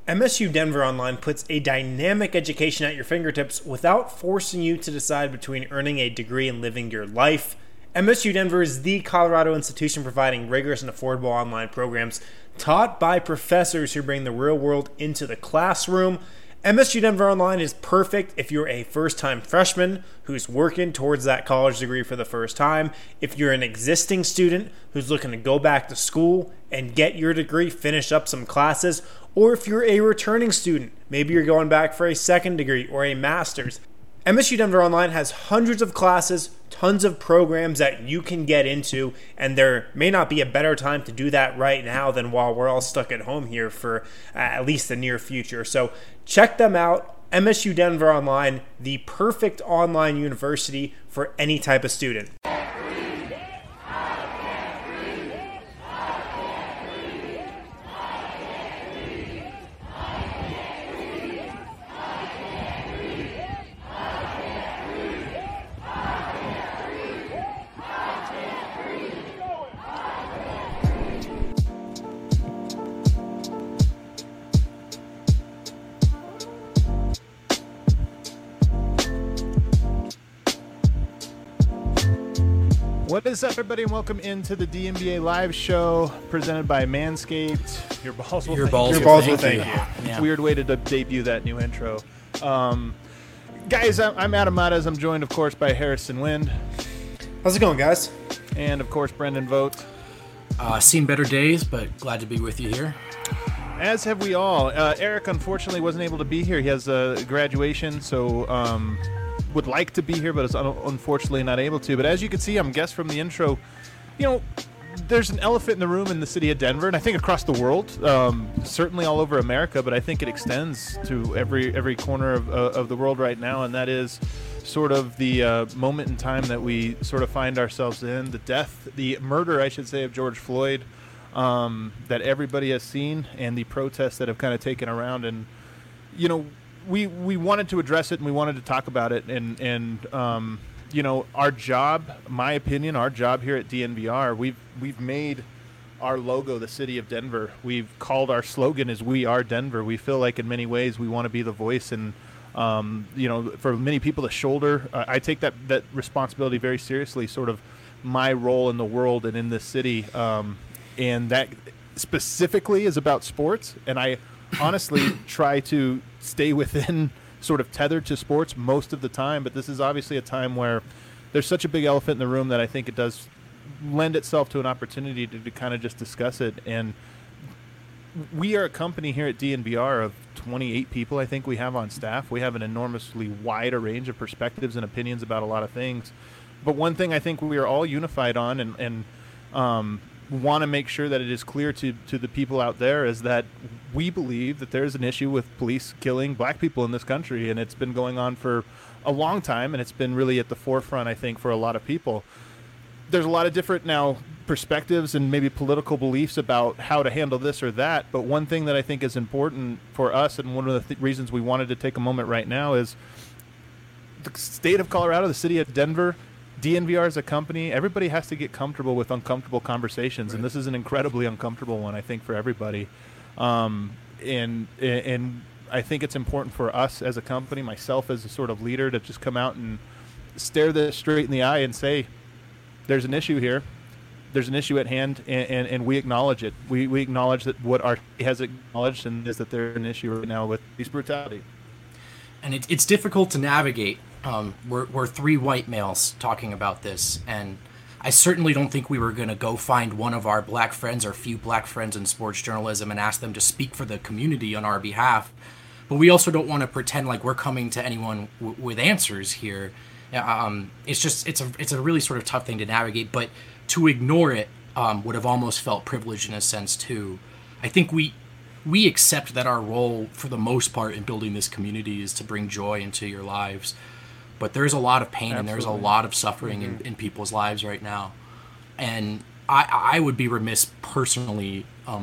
MSU Denver Online puts a dynamic education at your fingertips without forcing you to decide between earning a degree and living your life. MSU Denver is the Colorado institution providing rigorous and affordable online programs taught by professors who bring the real world into the classroom. MSU Denver Online is perfect if you're a first-time freshman who's working towards that college degree for the first time, if you're an existing student who's looking to go back to school and get your degree, finish up some classes, or if you're a returning student, maybe you're going back for a second degree or a master's. MSU Denver Online has hundreds of classes, tons of programs that you can get into, and there may not be a better time to do that right now than while we're all stuck at home here for at least the near future. So check them out. MSU Denver Online, the perfect online university for any type of student. What is up, everybody, and welcome into the DNBA live show presented by Manscaped. Your balls will thank you. Yeah. Weird way to debut that new intro. Guys, I'm Adam Matas. I'm joined, of course, by Harrison Wind. How's it going, guys? And, of course, Brendan Vogt. Seen better days, but glad to be with you here. As have we all. Eric, unfortunately, wasn't able to be here. He has a graduation, so would like to be here, but is unfortunately not able to. But as you can see, I'm guessed from the intro, there's an elephant in the room in the city of Denver, and I think across the world, certainly all over America, but I think it extends to every corner of the world right now, and that is sort of the moment in time that we sort of find ourselves in, the murder, I should say, of George Floyd, that everybody has seen, and the protests that have kind of taken around. And, we wanted to address it, and we wanted to talk about it, and our job, my opinion, our job here at DNVR, we've made our logo the city of Denver. We've called our slogan is "We Are Denver." We feel like in many ways we want to be the voice, and for many people to shoulder. I take that responsibility very seriously. Sort of my role in the world and in this city, and that specifically is about sports. And I honestly try to stay within sort of tethered to sports most of the time, but this is obviously a time where there's such a big elephant in the room that I think it does lend itself to an opportunity to kind of just discuss it. And we are a company here at DNVR of 28 people I think we have on staff. We have an enormously wide range of perspectives and opinions about a lot of things. But one thing I think we are all unified on and want to make sure that it is clear to the people out there is that we believe that there's an issue with police killing black people in this country, and it's been going on for a long time, and it's been really at the forefront, I think, for a lot of people. There's a lot of different now perspectives and maybe political beliefs about how to handle this or that, but one thing that I think is important for us, and one of the reasons we wanted to take a moment right now, is the state of Colorado, the city of Denver, DNVR as a company, everybody has to get comfortable with uncomfortable conversations, right. And this is an incredibly uncomfortable one, I think, for everybody. And I think it's important for us as a company, myself as a sort of leader, to just come out and stare this straight in the eye and say, there's an issue here. There's an issue at hand, and we acknowledge it. We acknowledge that what our has acknowledged, and is that there's an issue right now with police brutality. And it's difficult to navigate. We're three white males talking about this, and I certainly don't think we were going to go find one of our black friends or few black friends in sports journalism and ask them to speak for the community on our behalf. But we also don't want to pretend like we're coming to anyone with answers here. It's a really sort of tough thing to navigate, but to ignore it would have almost felt privileged in a sense too. I think we accept that our role for the most part in building this community is to bring joy into your lives. But there's a lot of pain. Absolutely. And there's a lot of suffering in people's lives right now. And I would be remiss personally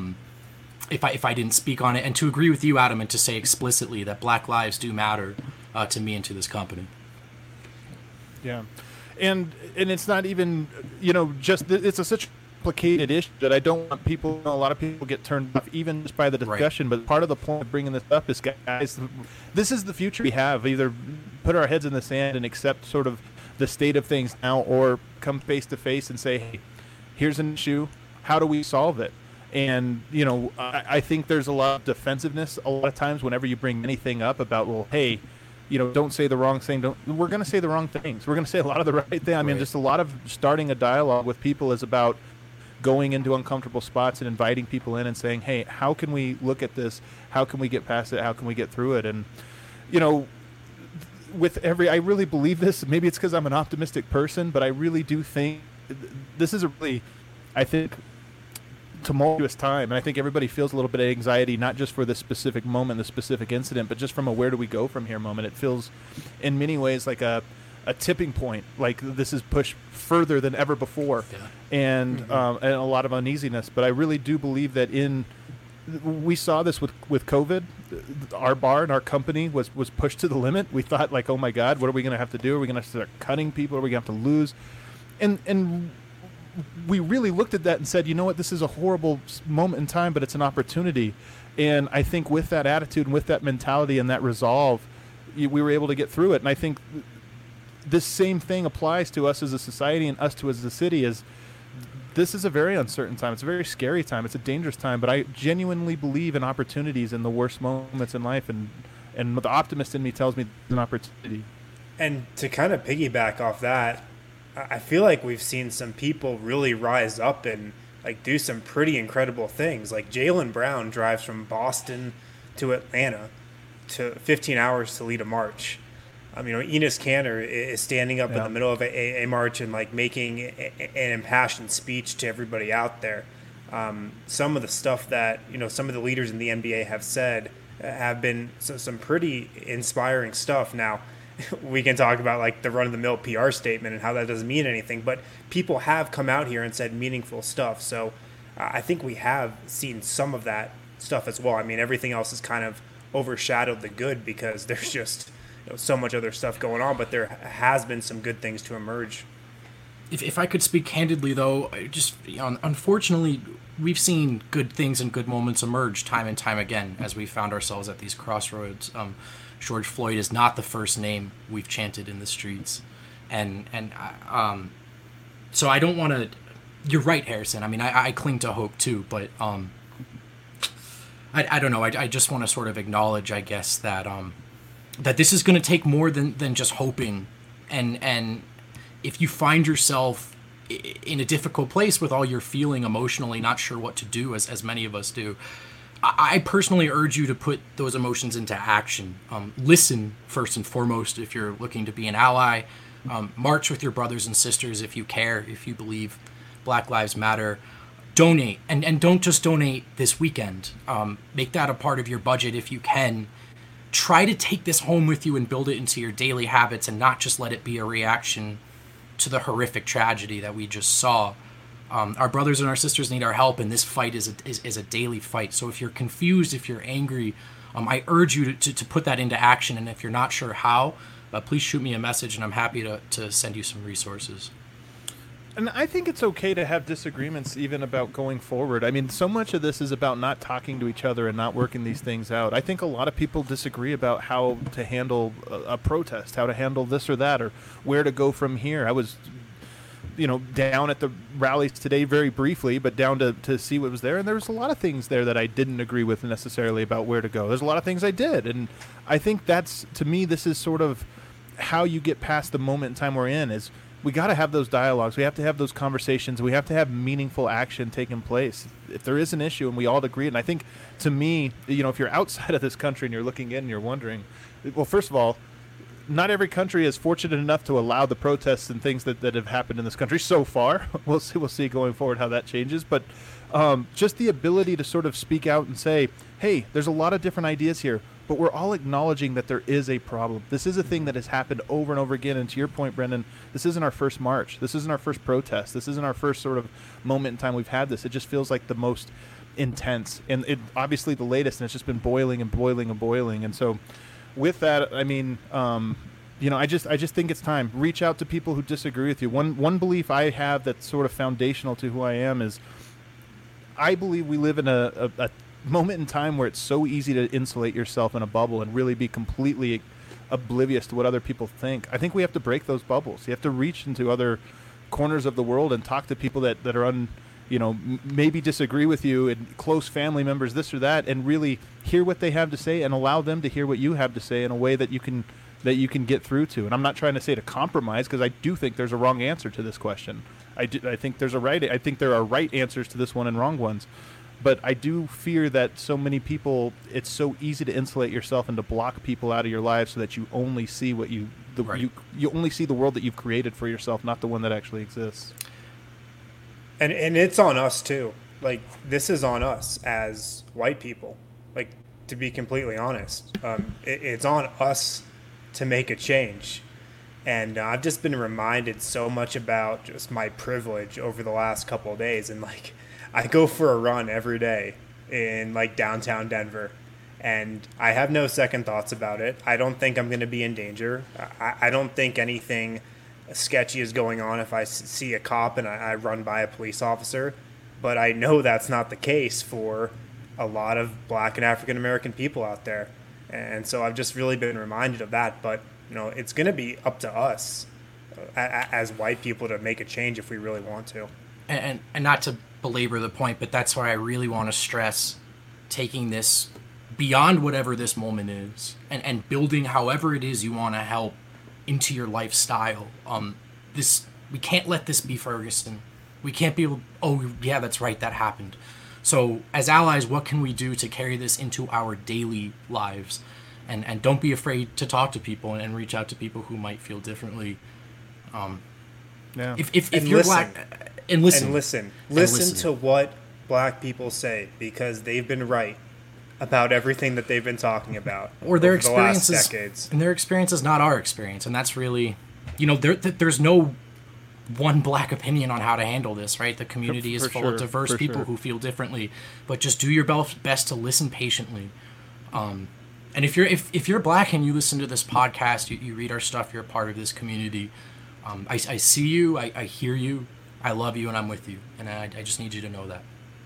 if I didn't speak on it, and to agree with you, Adam, and to say explicitly that Black lives do matter to me and to this company. Yeah. And it's not even, just, it's such complicated issue that I don't want people. A lot of people get turned off even just by the discussion. Right. But part of the point of bringing this up is, guys, this is the future we have. Either put our heads in the sand and accept sort of the state of things now, or come face to face and say, hey, here's an issue. How do we solve it? And, you know, I think there's a lot of defensiveness a lot of times whenever you bring anything up about, well, hey, you know, don't say the wrong thing. We're going to say the wrong things. We're going to say a lot of the right thing. I mean, just a lot of starting a dialogue with people is about going into uncomfortable spots and inviting people in and saying, hey, how can we look at this? How can we get past it? How can we get through it? And, you know, I really believe this. Maybe it's because I'm an optimistic person, but I really do think this is a really, I think, tumultuous time, and I think everybody feels a little bit of anxiety, not just for this specific moment, the specific incident, but just from a where do we go from here moment. It feels in many ways like a tipping point, like this is pushed further than ever before. And a lot of uneasiness. But I really do believe that we saw this with COVID. Our bar and our company was pushed to the limit. We thought, like, oh my God, what are we going to have to do? Are we going to start cutting people? Are we going to have to lose? And we really looked at that and said, you know what, this is a horrible moment in time, but it's an opportunity. And I think with that attitude and with that mentality and that resolve, we were able to get through it. And I think this same thing applies to us as a society and us to as a city. Is this is a very uncertain time. It's a very scary time. It's a dangerous time. But I genuinely believe in opportunities in the worst moments in life. And the optimist in me tells me it's an opportunity. And to kind of piggyback off that, I feel like we've seen some people really rise up and like do some pretty incredible things. Like Jaylen Brown drives from Boston to Atlanta to 15 hours to lead a march. You know, Enes Kanter is standing up in the middle of a march and like making an impassioned speech to everybody out there. Some of the stuff that, you know, some of the leaders in the NBA have said have been some pretty inspiring stuff. Now, we can talk about like the run-of-the-mill PR statement and how that doesn't mean anything, but people have come out here and said meaningful stuff. So I think we have seen some of that stuff as well. I mean, everything else has kind of overshadowed the good because there's just, you know, so much other stuff going on, but there has been some good things to emerge. If I could speak candidly, though, just, you know, unfortunately, we've seen good things and good moments emerge time and time again as we found ourselves at these crossroads. George Floyd is not the first name we've chanted in the streets, and so I don't want to. You're right, Harrison. I mean, I cling to hope too, but I don't know. I just want to sort of acknowledge, I guess, that that this is going to take more than just hoping, and if you find yourself in a difficult place with all you're feeling emotionally, not sure what to do, as many of us do, I personally urge you to put those emotions into action. Listen first and foremost if you're looking to be an ally. March with your brothers and sisters if you care, if you believe Black Lives Matter. Donate, and don't just donate this weekend. Make that a part of your budget if you can. Try to take this home with you and build it into your daily habits and not just let it be a reaction to the horrific tragedy that we just saw. Our brothers and our sisters need our help, and this fight is a daily fight. So if you're confused, if you're angry, I urge you to put that into action. And if you're not sure how, please shoot me a message, and I'm happy to send you some resources. And I think it's okay to have disagreements even about going forward. I mean, so much of this is about not talking to each other and not working these things out. I think a lot of people disagree about how to handle a protest, how to handle this or that, or where to go from here. I was, you know, down at the rallies today very briefly, but down to see what was there. And there was a lot of things there that I didn't agree with necessarily about where to go. There's a lot of things I did. And I think that's, to me, this is sort of how you get past the moment in time we're in is we got to have those dialogues. We have to have those conversations. We have to have meaningful action taking place. If there is an issue and we all agree, and I think to me, you know, if you're outside of this country and you're looking in and you're wondering, well, first of all, not every country is fortunate enough to allow the protests and things that have happened in this country so far. We'll see going forward how that changes. But just the ability to sort of speak out and say, hey, there's a lot of different ideas here, but we're all acknowledging that there is a problem. This is a thing that has happened over and over again. And to your point, Brendan, this isn't our first march. This isn't our first protest. This isn't our first sort of moment in time we've had this. It just feels like the most intense. And it obviously the latest, and it's just been boiling and boiling and boiling. And so with that, I mean, I just think it's time. Reach out to people who disagree with you. One belief I have that's sort of foundational to who I am is I believe we live in a moment in time where it's so easy to insulate yourself in a bubble and really be completely oblivious to what other people think. I think we have to break those bubbles. You have to reach into other corners of the world and talk to people that are maybe disagree with you, and close family members, this or that, and really hear what they have to say and allow them to hear what you have to say in a way that you can get through to. And I'm not trying to say to compromise, because I do think there's a wrong answer to this question. I think there are right answers to this one and wrong ones. But I do fear that so many people, it's so easy to insulate yourself and to block people out of your life so that you only see you only see the world that you've created for yourself, not the one that actually exists. And it's on us too. Like, this is on us as white people. Like, to be completely honest, it's on us to make a change. And I've just been reminded so much about just my privilege over the last couple of days. And like, I go for a run every day in like downtown Denver, and I have no second thoughts about it. I don't think I'm going to be in danger. I don't think anything sketchy is going on if I see a cop and I run by a police officer. But I know that's not the case for a lot of Black and African American people out there. And so I've just really been reminded of that. But, it's going to be up to us as white people to make a change if we really want to. And not to belabor the point, but that's why I really want to stress taking this beyond whatever this moment is and building however it is you want to help into your lifestyle. We can't let this be Ferguson. We can't be able, oh yeah, that's right, that happened. So as allies, what can we do to carry this into our daily lives? And don't be afraid to talk to people and reach out to people who might feel differently. If you're Black, and listen to what Black people say, because they've been right about everything that they've been talking about or their over experiences, the last decades. And their experience is not our experience, and that's really, there's no one Black opinion on how to handle this, right? The community is full of diverse people who feel differently, but just do your best to listen patiently. And if you're Black and you listen to this podcast, you read our stuff, you're a part of this community. I see you, I hear you, I love you, and I'm with you, and I just need you to know that.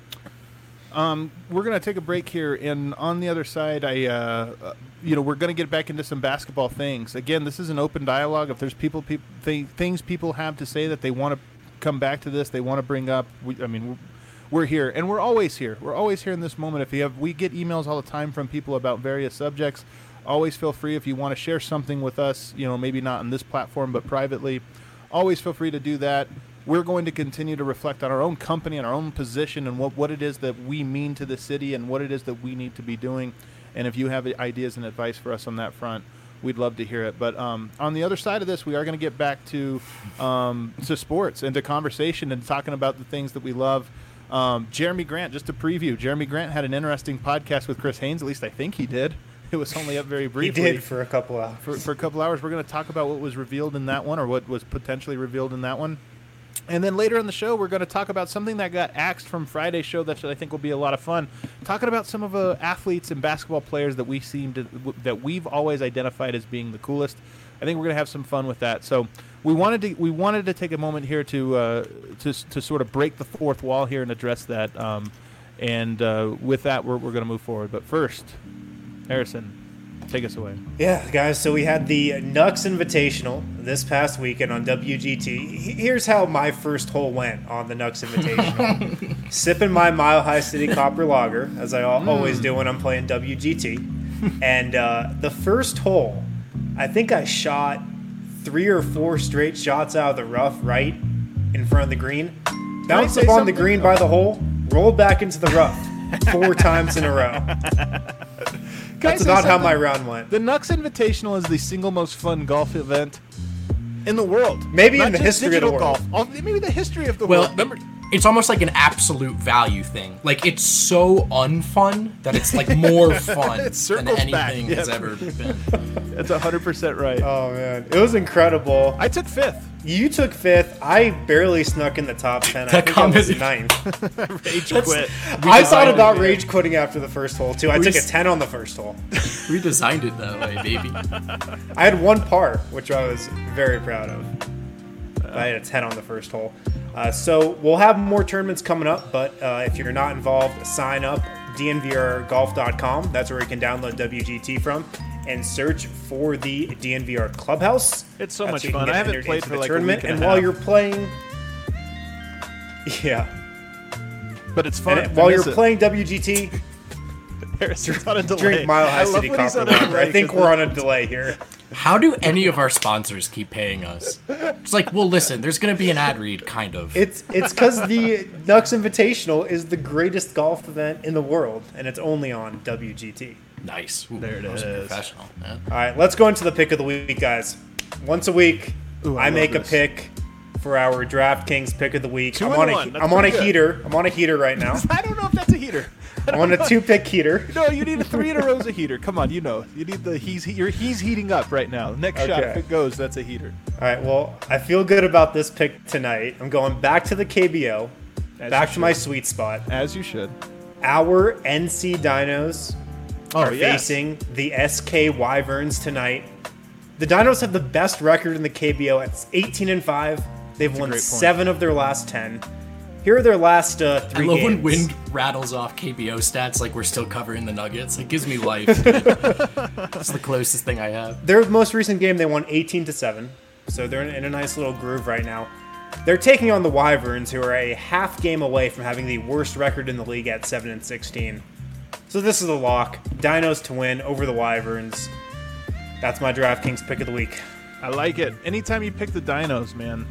We're going to take a break here, and on the other side, we're going to get back into some basketball things. Again, this is an open dialogue. If there's things people have to say that they want to come back to this, they want to bring up, we're here, and we're always here. We're always here in this moment. We get emails all the time from people about various subjects. Always feel free if you want to share something with us, maybe not on this platform, but privately. Always feel free to do that. We're going to continue to reflect on our own company and our own position and what it is that we mean to the city and what it is that we need to be doing. And if you have ideas and advice for us on that front, we'd love to hear it. But on the other side of this, we are going to get back to sports and to conversation and talking about the things that we love. Jeremy Grant, just to preview, Jeremy Grant had an interesting podcast with Chris Haynes. At least I think he did. It was only up very briefly. He did for a couple hours. For a couple hours. We're going to talk about what was revealed in that one, or what was potentially revealed in that one. And then later in the show, we're going to talk about something that got axed from Friday's show that I think will be a lot of fun. Talking about some of the athletes and basketball players that we've always identified as being the coolest. I think we're going to have some fun with that. So we wanted to take a moment here to sort of break the fourth wall here and address that. With that, we're going to move forward. But first, Harrison, take us away. Yeah, guys, so we had the Nux Invitational this past weekend on WGT. Here's how my first hole went on the Nux Invitational. Sipping my Mile High City Copper Lager, as I always do when I'm playing WGT. And the first hole, I think I shot 3 or 4 straight shots out of the rough right in front of the green. Bounced up on the green by the hole, rolled back into the rough 4 times in a row. That's about how my round went. The Nux Invitational is the single most fun golf event in the world. Maybe not in the history of the world. Maybe the history of the world. It's almost like an absolute value thing. Like, it's so unfun that it's like more fun than anything has ever been. That's 100% right. Oh man, it was incredible. I took 5th. You took 5th. I barely snuck in the top 10. I That think I was comment- 9th. Rage quit. I thought designed about it. rage quitting after the first hole too. I took a s- 10 on the first hole. We designed it that way, baby. I had 1 par, which I was very proud of. I had a 10 on the first hole. So we'll have more tournaments coming up, but if you're not involved, sign up dnvrgolf.com. That's where you can download WGT from and search for the DNVR Clubhouse. It's so That's much where you can fun. get I haven't entered played into for the like a tournament. week and And a while half. you're playing, yeah, But it's fun. and while you're playing WGT, Harrison's on a delay. drink Mile High I love City when he's Copper on a Lumber. delay I think 'cause we're on a delay here. How do any of our sponsors keep paying us? It's like, well, listen, there's going to be an ad read, kind of. It's because the Nux Invitational is the greatest golf event in the world, and it's only on WGT. Nice. Ooh, There it that was is. professional. Yeah. All right, let's go into the pick of the week, guys. Once a week, Ooh, I I love make a this. pick for our DraftKings pick of the week. 2 I'm and on 1. That's I'm on a pretty good. heater. I'm on a heater right now. I don't know if that's a heater. I'm on a 2-pick heater. No, you need a 3 in a row's a heater. Come on, you know. You need the he's heating up right now. Next shot, Okay. if it goes, that's a heater. All right, well, I feel good about this pick tonight. I'm going back to the KBO, As back you to my should. sweet spot. As you should. Our NC Dinos are yes. facing the SK Wyverns tonight. The Dinos have the best record in the KBO at 18-5. They've won great point. 7 of their last 10. Here are their last 3 I love games. when wind rattles off KBO stats like we're still covering the Nuggets. It gives me life. It's the closest thing I have. Their most recent game, they won 18-7. So they're in a nice little groove right now. They're taking on the Wyverns, who are a half game away from having the worst record in the league at 7-16. So this is a lock. Dinos to win over the Wyverns. That's my DraftKings pick of the week. I like it. Anytime you pick the Dinos, man,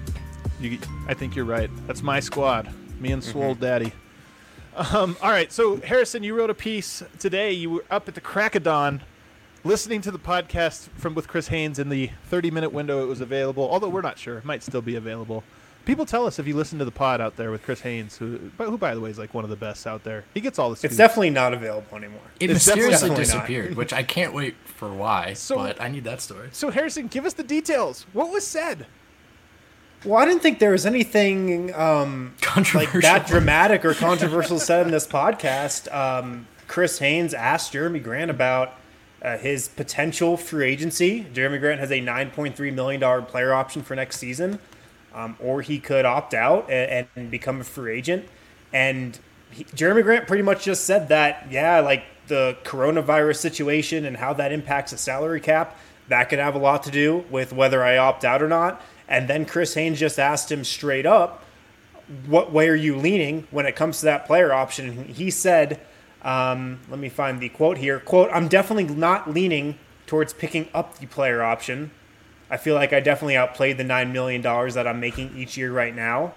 I think you're right. That's my squad. Me and Swole Daddy. All right, so Harrison, you wrote a piece today. You were up at the crack of dawn listening to the podcast with Chris Haynes in the 30-minute window it was available, although we're not sure. It might still be available. People tell us if you listen to the pod out there with Chris Haynes, who by the way, is like one of the best out there. He gets all the scoops. It's definitely not available anymore. It It's mysteriously definitely not. disappeared, which I can't wait for why, So- but I need that story. So, Harrison, give us the details. What was said? Well, I didn't think there was anything like Controversial. that dramatic or controversial said in this podcast. Chris Haynes asked Jeremy Grant about his potential free agency. Jeremy Grant has a $9.3 million player option for next season, or he could opt out and become a free agent. And Jeremy Grant pretty much just said that, yeah, like the coronavirus situation and how that impacts the salary cap, that could have a lot to do with whether I opt out or not. And then Chris Haynes just asked him straight up, what way are you leaning when it comes to that player option? And he said, let me find the quote here. Quote, I'm definitely not leaning towards picking up the player option. I feel like I definitely outplayed the $9 million that I'm making each year right now.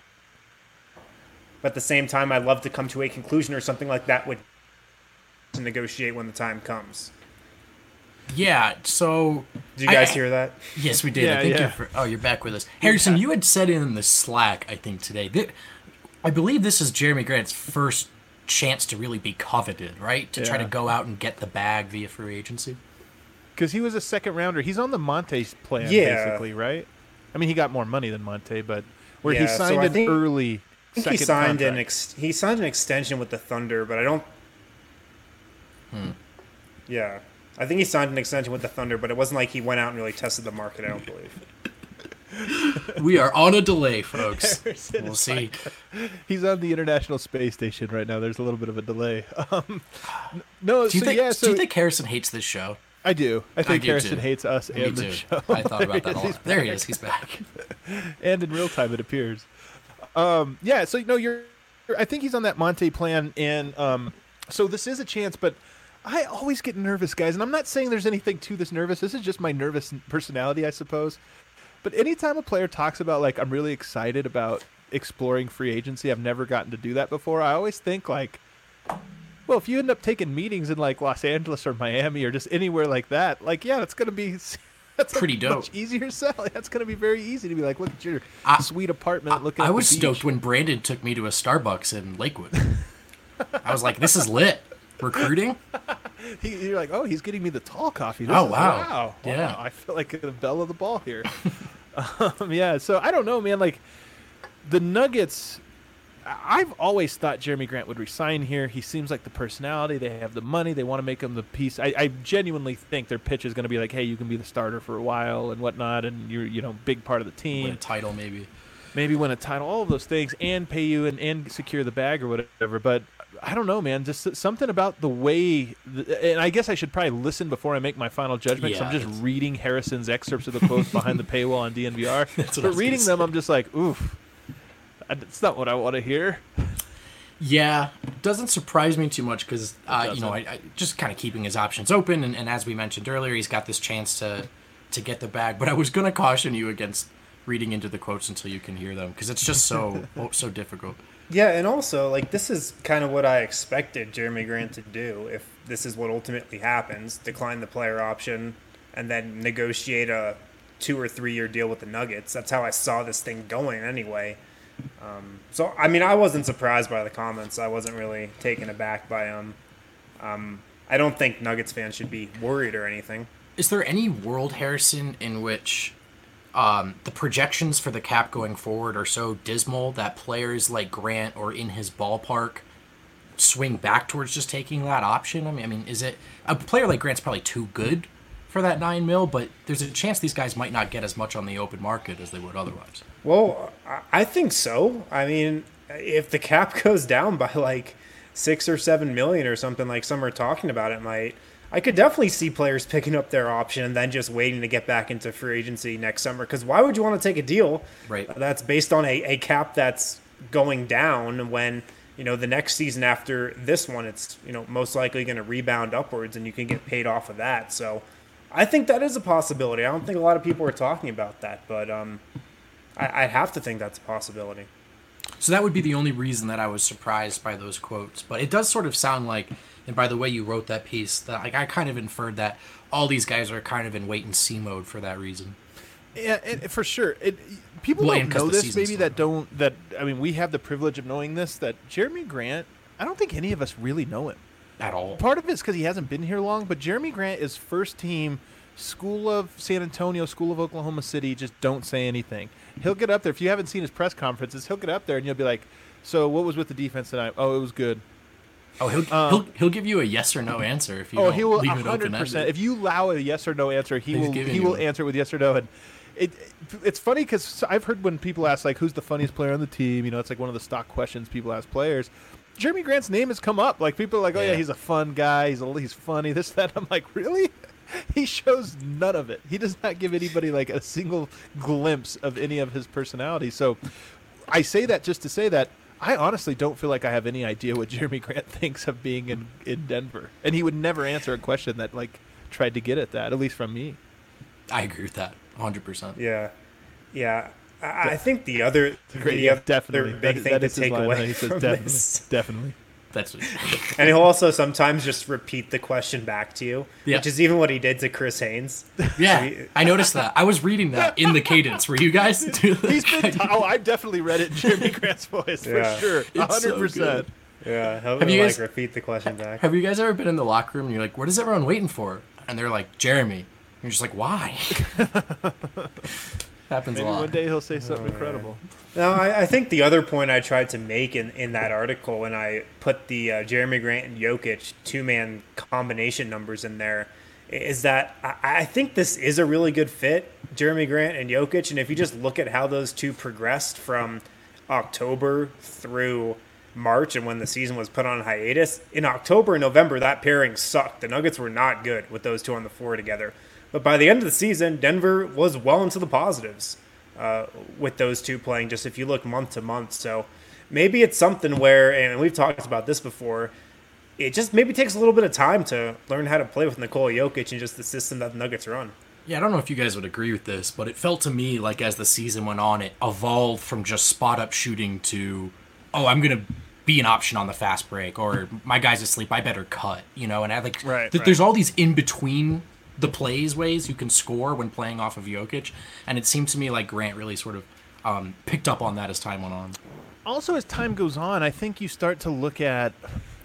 But at the same time, I'd love to come to a conclusion or something like that with to negotiate when the time comes. Yeah, so... Did you guys hear that? Yes, we did. Yeah, I think yeah. you're back with us. Harrison, you had said in the Slack, I think, today, that I believe this is Jeremy Grant's first chance to really be coveted, right? To try to Yeah. go out and get the bag via free agency. Because he was a second rounder. He's on the Monte plan, Yeah. basically, right? I mean, he got more money than Monte, but where he Yeah, so signed I an think- early I think second he signed contract. he signed an extension with the Thunder, but I don't. Yeah, I think he signed an extension with the Thunder, but it wasn't like he went out and really tested the market. I don't believe. We are on a delay, folks. Harrison We'll is see. He's on the International Space Station right now. There's a little bit of a delay. No, Do you, so think, yeah, do you so think Harrison hates this show? I do. I think do Harrison too. hates us Me and too. the show. I thought about that a He's lot. There he is. He's back. And in real time, it appears. Yeah, so I think he's on that Monte plan, and so this is a chance. But I always get nervous, guys, and I'm not saying there's anything to this nervous. This is just my nervous personality, I suppose. But anytime a player talks about like I'm really excited about exploring free agency, I've never gotten to do that before. I always think like, well, if you end up taking meetings in like Los Angeles or Miami or just anywhere like that, like yeah, that's gonna be. That's Pretty a dope. Much easier sell. That's going to be very easy to be like, look at your sweet apartment. Look at I the was beach. stoked when Brandon took me to a Starbucks in Lakewood. I was like, this is lit. Recruiting? You're like, oh, he's getting me the tall coffee. Oh, wow. Yeah. Wow. I feel like the belle of the ball here. Yeah, so I don't know, man. Like, the Nuggets, I've always thought Jeremy Grant would resign here. He seems like the personality. They have the money. They want to make him the piece. I genuinely think their pitch is going to be like, hey, you can be the starter for a while and whatnot, and you're, big part of the team. Win a title, maybe. Maybe win a title, all of those things, and pay you and secure the bag or whatever. But I don't know, man. Just something about the way, and I guess I should probably listen before I make my final judgment. Yeah, I'm just reading Harrison's excerpts of the quotes behind the paywall on DNVR. But reading them, I'm just like, oof, it's not what I want to hear. Yeah, doesn't surprise me too much because, I just kind of keeping his options open. And as we mentioned earlier, he's got this chance to get the bag. But I was going to caution you against reading into the quotes until you can hear them because it's just so difficult. Yeah, and also, like, this is kind of what I expected Jeremy Grant to do if this is what ultimately happens, decline the player option and then negotiate a 2 or 3 year deal with the Nuggets. That's how I saw this thing going anyway. So, I mean, I wasn't surprised by the comments. I wasn't really taken aback by them. I don't think Nuggets fans should be worried or anything. Is there any world, Harrison, in which the projections for the cap going forward are so dismal that players like Grant or in his ballpark swing back towards just taking that option? I mean, is it a player like Grant's probably too good for that $9 million, but there's a chance these guys might not get as much on the open market as they would otherwise. Well, I think so. I mean, if the cap goes down by like 6 or 7 million or something like some are talking about, I could definitely see players picking up their option and then just waiting to get back into free agency next summer. Because why would you want to take a deal that's based on a cap that's going down when, the next season after this one, it's, most likely going to rebound upwards and you can get paid off of that. So I think that is a possibility. I don't think a lot of people are talking about that, but I'd have to think that's a possibility. So that would be the only reason that I was surprised by those quotes. But it does sort of sound like, and by the way you wrote that piece, that I kind of inferred that all these guys are kind of in wait-and-see mode for that reason. Yeah, for sure. People don't know this, maybe we have the privilege of knowing this, that Jeremy Grant, I don't think any of us really know him. At all. Part of it is because he hasn't been here long, but Jeremy Grant is first team, School of San Antonio, School of Oklahoma City, just don't say anything. He'll get up there. If you haven't seen his press conferences, he'll get up there and you'll be like, so what was with the defense tonight? Oh, it was good. Oh, he'll give you a yes or no answer if you don't he will leave 100%. it open-ended. If you allow a yes or no answer, he will answer it with yes or no. And it's funny because I've heard when people ask, like, who's the funniest player on the team, it's like one of the stock questions people ask players. Jeremy Grant's name has come up. Like, people are like, oh, yeah, he's a fun guy. He's funny, this, that. I'm like, really? He shows none of it. He does not give anybody, like, a single glimpse of any of his personality. So I say that just to say that I honestly don't feel like I have any idea what Jeremy Grant thinks of being in Denver. And he would never answer a question that, like, tried to get at that, at least from me. I agree with that, 100%. Yeah. I think the other definitely big thing to take away from this. Definitely. That's what and he'll also sometimes just repeat the question back to you, which is even what he did to Chris Haynes. Yeah, I noticed that. I was reading that in the cadence. Were you guys? I've definitely read it in Jeremy Grant's voice for sure, 100%. So yeah, he'll repeat the question back. Have you guys ever been in the locker room and you're like, what is everyone waiting for? And they're like, Jeremy. And you're just like, why? Happens Maybe a lot. One day he'll say something incredible. No, I think the other point I tried to make in that article when I put the Jeremy Grant and Jokic two-man combination numbers in there is that I think this is a really good fit, Jeremy Grant and Jokic. And if you just look at how those two progressed from October through March and when the season was put on hiatus, in October and November, that pairing sucked. The Nuggets were not good with those two on the floor together. But by the end of the season, Denver was well into the positives with those two playing, just if you look month to month. So maybe it's something where, and we've talked about this before, it just maybe takes a little bit of time to learn how to play with Nikola Jokic and just the system that the Nuggets run. Yeah, I don't know if you guys would agree with this, but it felt to me like as the season went on, it evolved from just spot-up shooting to, oh, I'm going to be an option on the fast break, or my guy's asleep, I better cut, and I like there's all these in-between the plays ways you can score when playing off of Jokic, and it seemed to me like Grant really sort of picked up on that as time went on. Also, as time goes on, I think you start to look at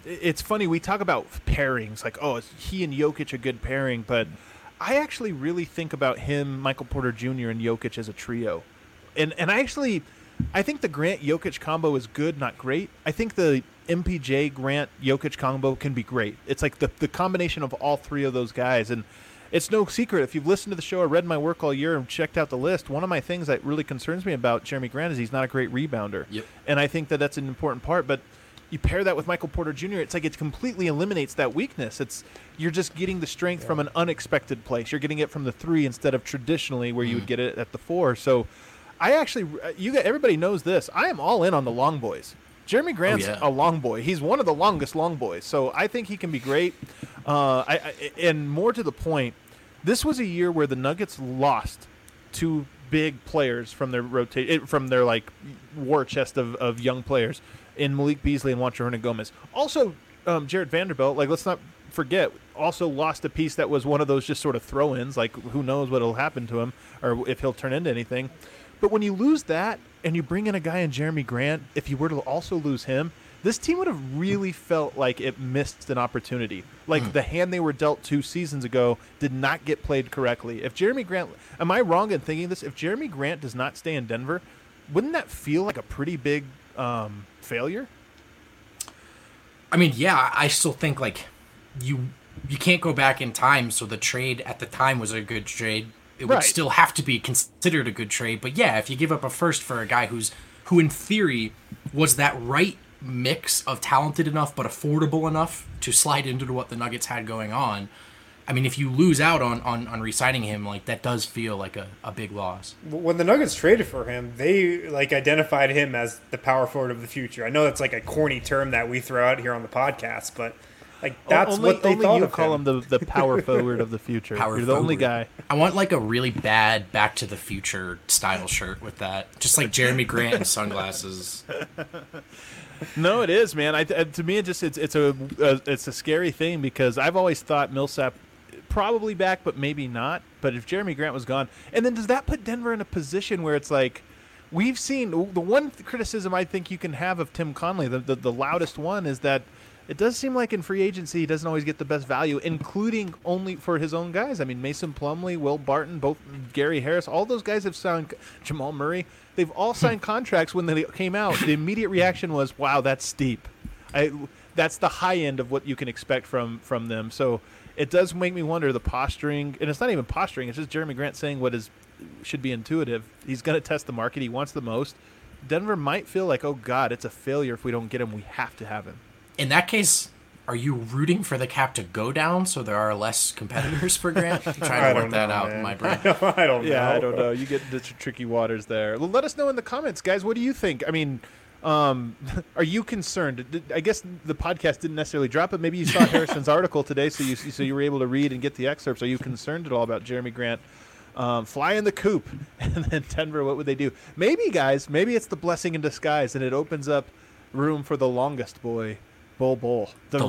it's funny, we talk about pairings, like, oh, is he and Jokic a good pairing? But I actually really think about him, Michael Porter Jr., and Jokic as a trio. And I think the Grant-Jokic combo is good, not great. I think the MPJ-Grant-Jokic combo can be great. It's like the combination of all three of those guys. And it's no secret, if you've listened to the show or read my work all year and checked out the list, one of my things that really concerns me about Jeremy Grant is he's not a great rebounder. Yep. And I think that that's an important part. But you pair that with Michael Porter Jr., it's like it completely eliminates that weakness. You're just getting the strength from an unexpected place. You're getting it from the 3 instead of traditionally where you would get it at the 4. So I actually, everybody knows this. I am all in on the long boys. Jeremy Grant's a long boy. He's one of the longest long boys. So I think he can be great. And more to the point, this was a year where the Nuggets lost 2 big players from their like war chest of young players in Malik Beasley and Juancho Hernangomez. Also, Jared Vanderbilt, like, let's not forget, also lost a piece that was one of those just sort of throw-ins, like who knows what will happen to him or if he'll turn into anything. But when you lose that and you bring in a guy in Jeremy Grant, if you were to also lose him, this team would have really felt like it missed an opportunity. Like the hand they were dealt 2 seasons ago did not get played correctly. If Jeremy Grant, am I wrong in thinking this? If Jeremy Grant does not stay in Denver, wouldn't that feel like a pretty big failure? I mean, yeah, I still think like you can't go back in time. So the trade at the time was a good trade. It would still have to be considered a good trade. But yeah, if you give up a first for a guy who in theory was that right mix of talented enough but affordable enough to slide into what the Nuggets had going on, I mean, if you lose out on re-signing him, like, that does feel like a big loss. When the Nuggets traded for him, they like identified him as the power forward of the future. I know that's like a corny term that we throw out here on the podcast, but like that's what they thought of him. Only you call him the power forward of the future. You're the only guy. I want like a really bad Back to the Future style shirt with that, just like Jeremy Grant and sunglasses. No, it is, man. To me, it's a scary thing because I've always thought Millsap probably back, but maybe not. But if Jeremy Grant was gone, and then does that put Denver in a position where it's like we've seen the one criticism I think you can have of Tim Connelly, the loudest one, is that it does seem like in free agency he doesn't always get the best value, including only for his own guys. I mean, Mason Plumlee, Will Barton, both Gary Harris, all those guys have signed. Jamal Murray, they've all signed contracts. When they came out, the immediate reaction was, "Wow, that's steep." That's the high end of what you can expect from them. So it does make me wonder the posturing, and it's not even posturing. It's just Jeremy Grant saying what should be intuitive. He's going to test the market. He wants the most. Denver might feel like, oh God, it's a failure if we don't get him. We have to have him. In that case, are you rooting for the cap to go down so there are less competitors for Grant? I'm trying to work that out in my brain. I don't know. Yeah, I don't know. You get into tricky waters there. Well, let us know in the comments, guys. What do you think? I mean, are you concerned? I guess the podcast didn't necessarily drop it. Maybe you saw Harrison's article today, so you were able to read and get the excerpts. Are you concerned at all about Jeremy Grant fly in the coop and then Denver? What would they do? Maybe, guys. Maybe it's the blessing in disguise, and it opens up room for the longest boy. Bol, the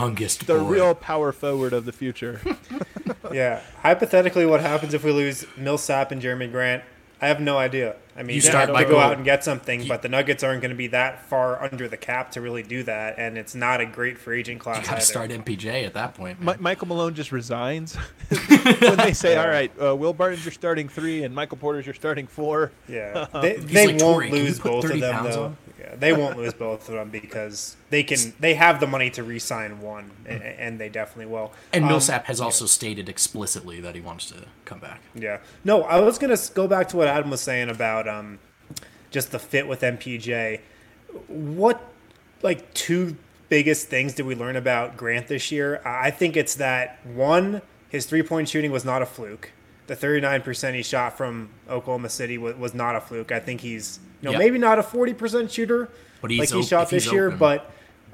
real power forward of the future. Yeah. Hypothetically, what happens if we lose Millsap and Jeremy Grant? I have no idea. I mean, you have to go out and get something, but the Nuggets aren't going to be that far under the cap to really do that, and it's not a great free agent class. You got to start MPJ at that point. Michael Malone just resigns when they say, "All right, Will Barton's your starting 3, and Michael Porter's your starting 4." Yeah, they won't lose both of them though. Yeah, they won't lose both of them because they have the money to re-sign one, and they definitely will. And Millsap has also stated explicitly that he wants to come back. Yeah. No, I was going to go back to what Adam was saying about just the fit with MPJ. What, like, 2 biggest things did we learn about Grant this year? I think it's that, one, his three-point shooting was not a fluke. The 39% he shot from Oklahoma City was not a fluke. I think he's, maybe not a 40% shooter but like he shot this year, but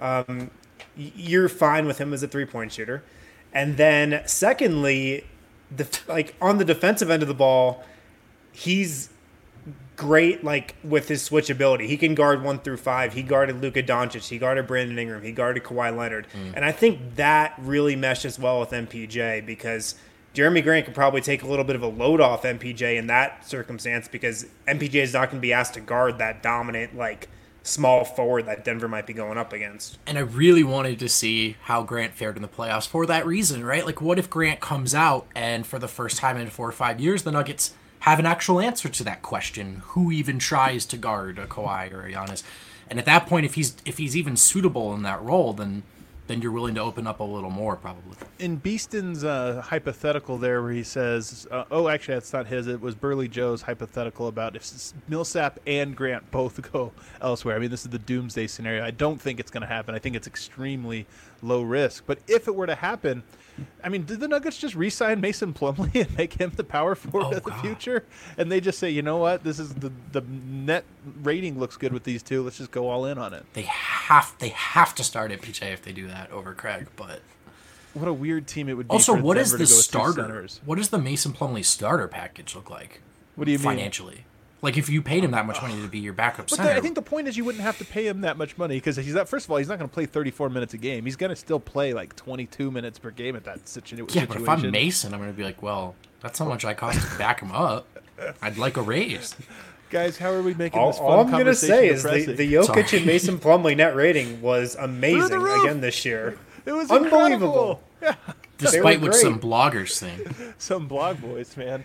you're fine with him as a three-point shooter. And then, secondly, on the defensive end of the ball, he's great, like, with his switchability. He can guard 1 through 5. He guarded Luka Doncic. He guarded Brandon Ingram. He guarded Kawhi Leonard. And I think that really meshes well with MPJ because Jeremy Grant could probably take a little bit of a load off MPJ in that circumstance because MPJ is not going to be asked to guard that dominant, like, small forward that Denver might be going up against. And I really wanted to see how Grant fared in the playoffs for that reason, right? Like, what if Grant comes out and for the first time in 4 or 5 years, the Nuggets have an actual answer to that question? Who even tries to guard a Kawhi or a Giannis? And at that point, if he's even suitable in that role, then you're willing to open up a little more, probably. In Beeston's hypothetical there where he says, actually, that's not his. It was Burley Joe's hypothetical about if Millsap and Grant both go elsewhere. I mean, this is the doomsday scenario. I don't think it's going to happen. I think it's extremely low risk. But if it were to happen, I mean, did the Nuggets just re-sign Mason Plumlee and make him the power forward of the future? And they just say, you know what? This is the net rating looks good with these two. Let's just go all in on it. They have to start at PJ if they do that over Craig, but what a weird team it would be. Also, for what Denver is the to go with two starter? centers. What does the Mason Plumlee starter package look like? What do you mean? Financially? Like, if you paid him that much money to be your backup center. I think the point is you wouldn't have to pay him that much money because he's not. First of all, he's not going to play 34 minutes a game. He's going to still play like 22 minutes per game at that situation. Yeah, but if I'm Mason, I'm going to be like, well, that's how much I cost to back him up. I'd like a raise. Guys, how are we making this fun All I'm going to say is depressing? the Jokic and Mason Plumlee net rating was amazing again this year. It was unbelievable. Yeah. Despite what some bloggers think. Some blog boys, man.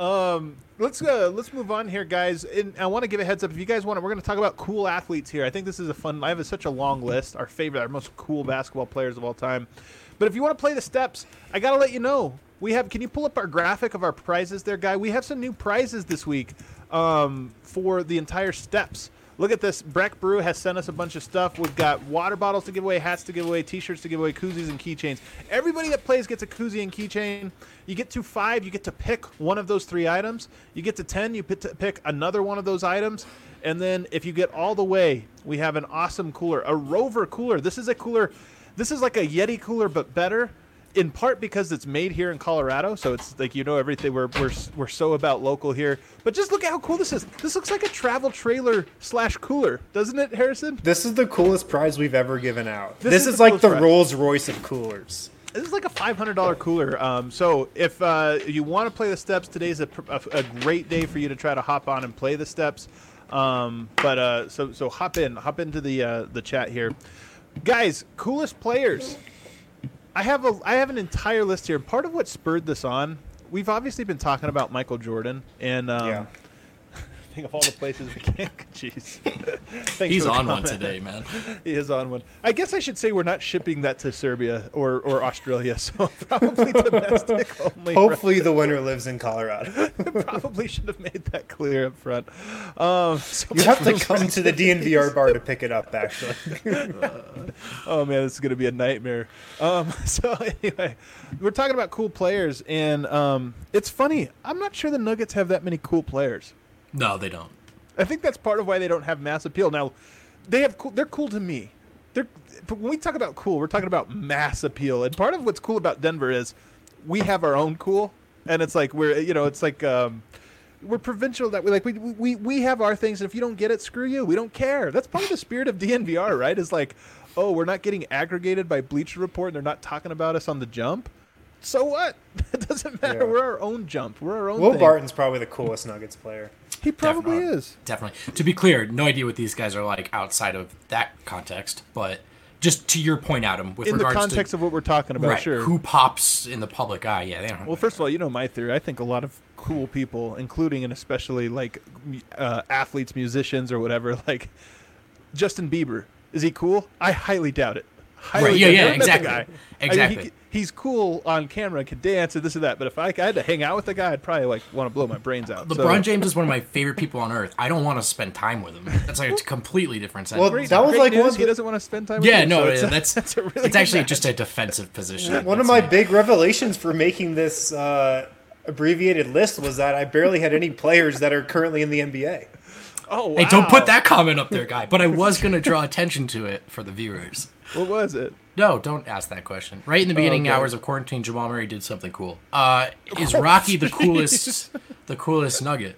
Let's move on here, guys. And I want to give a heads up. If you guys want it, we're going to talk about cool athletes here. I think this is a fun. I have such a long list. Our most cool basketball players of all time. But if you want to play the steps, I got to let you know. Can you pull up our graphic of our prizes there, Guy? We have some new prizes this week for the entire steps. Look at this. Breck Brew has sent us a bunch of stuff. We've got water bottles to give away, hats to give away, T-shirts to give away, koozies and keychains. Everybody that plays gets a koozie and keychain. You get to 5, you get to pick one of those 3 items. You get to 10, you get to pick another one of those items. And then if you get all the way, we have an awesome cooler, a Rover cooler. This is a cooler. This is like a Yeti cooler, but better. In part because it's made here in Colorado, so it's like everything. We're so about local here. But just look at how cool this is. This looks like a travel trailer / cooler, doesn't it, Harrison? This is the coolest prize we've ever given out. This is like the Rolls Royce of coolers. This is like a $500 cooler. So if you want to play the steps, today's a great day for you to try to hop on and play the steps. So hop into the chat here, guys. Coolest players. I have an entire list here. Part of what spurred this on, we've obviously been talking about Michael Jordan, and think of all the places we can. Jeez, he's on one today, man. He is on one. I guess I should say we're not shipping that to Serbia or Australia, so probably domestic only. Hopefully, the winner lives in Colorado. Probably should have made that clear up front. You have to come to the DNVR bar to pick it up, actually. Oh man, this is gonna be a nightmare. So anyway, we're talking about cool players, and it's funny. I'm not sure the Nuggets have that many cool players. No, they don't. I think that's part of why they don't have mass appeal. Now, they're cool to me. But when we talk about cool, we're talking about mass appeal. And part of what's cool about Denver is we have our own cool, and it's like we're provincial that we have our things, and if you don't get it, screw you. We don't care. That's part of the spirit of DNVR, right? Is like, oh, we're not getting aggregated by Bleacher Report, and they're not talking about us on the jump. So what? It doesn't matter. Yeah. We're our own jump. We're our own Will thing. Barton's probably the coolest Nuggets player. He probably is. Definitely. To be clear, no idea what these guys are like outside of that context, but just to your point, Adam, with in regards the context to, of what we're talking about, right, sure. Who pops in the public eye? Yeah, they don't. Well, first of all, you know my theory. I think a lot of cool people, including and especially like athletes, musicians, or whatever, like Justin Bieber. Is he cool? I highly doubt it. Right, yeah, exactly. Exactly. I mean, he's cool on camera, can dance, and this and that. But if I had to hang out with the guy, I'd probably want to blow my brains out. LeBron James is one of my favorite people on earth. I don't want to spend time with him. That's like a completely different sense. Well, that was like news. He doesn't want to spend time with you. Yeah, no, so that's really it's actually just a defensive position. One of my big revelations for making this abbreviated list was that I barely had any players that are currently in the NBA. Oh, wow. Hey, don't put that comment up there, guy. But I was going to draw attention to it for the viewers. What was it? No, don't ask that question. Right in the beginning hours of quarantine, Jamal Murray did something cool. Is Rocky the coolest? The coolest Nugget?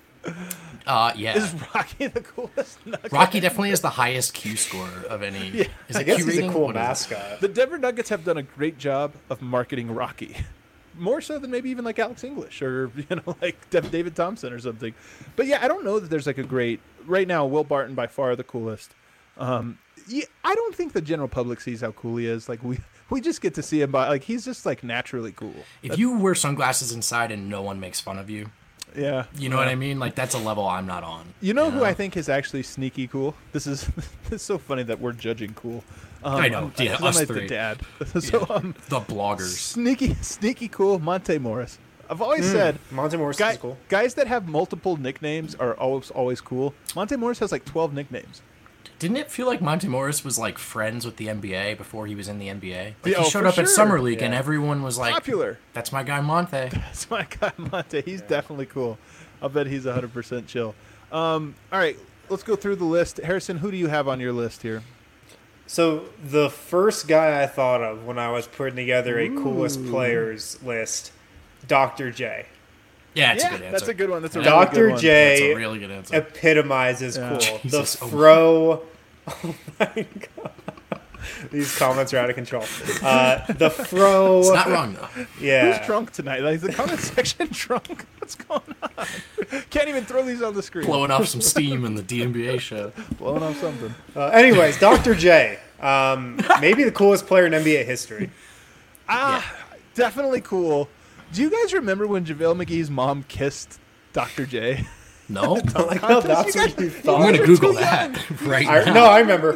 Yeah. Is Rocky the coolest Nugget? Rocky definitely has the highest Q score of any. Yeah. Is I it guess Q he's rating? a cool mascot. The Denver Nuggets have done a great job of marketing Rocky. more so than maybe even like Alex English or like David Thompson or something. But yeah, I don't know that there's like a great right now. Will Barton by far the coolest. Yeah, I don't think the general public sees how cool he is. Like we just get to see him by like he's just like naturally cool. If you wear sunglasses inside and no one makes fun of you, yeah, you know what I mean. Like that's a level I'm not on. You know who I think is actually sneaky cool? This is so funny that we're judging cool. I know. Yeah, us like three. The dad. Yeah. So The bloggers. Sneaky cool. Monte Morris. I've always said Monte Morris is cool. Guys that have multiple nicknames are always cool. Monte Morris has like 12 nicknames. Didn't it feel like Monte Morris was like friends with the NBA before he was in the NBA? Like Yeah, he showed up at sure. Summer League Yeah. and everyone was like, Popular. "That's my guy Monte." That's my guy Monte. He's definitely cool. I'll bet he's 100% chill. All right, let's go through the list. Harrison, who do you have on your list here? So the first guy I thought of when I was putting together a coolest players list, Dr. J. Yeah, it's a good answer. That's a good one. That's a really good Dr. one. J That's a really good answer. epitomizes Yeah. cool. Jesus, The fro. Oh my god. These comments are out of control. The fro. It's not wrong though. Yeah. Who's drunk tonight? Like the comment section drunk? What's going on? Can't even throw these on the screen. Blowing off some steam in the DNBA show. Blowing off something. Anyways, Dr. J. Maybe the coolest player in NBA history. Definitely cool. Do you guys remember when JaVale McGee's mom kissed Dr. J? No? Like, no, that's what you I'm thought. going to Google that right now. No, I remember.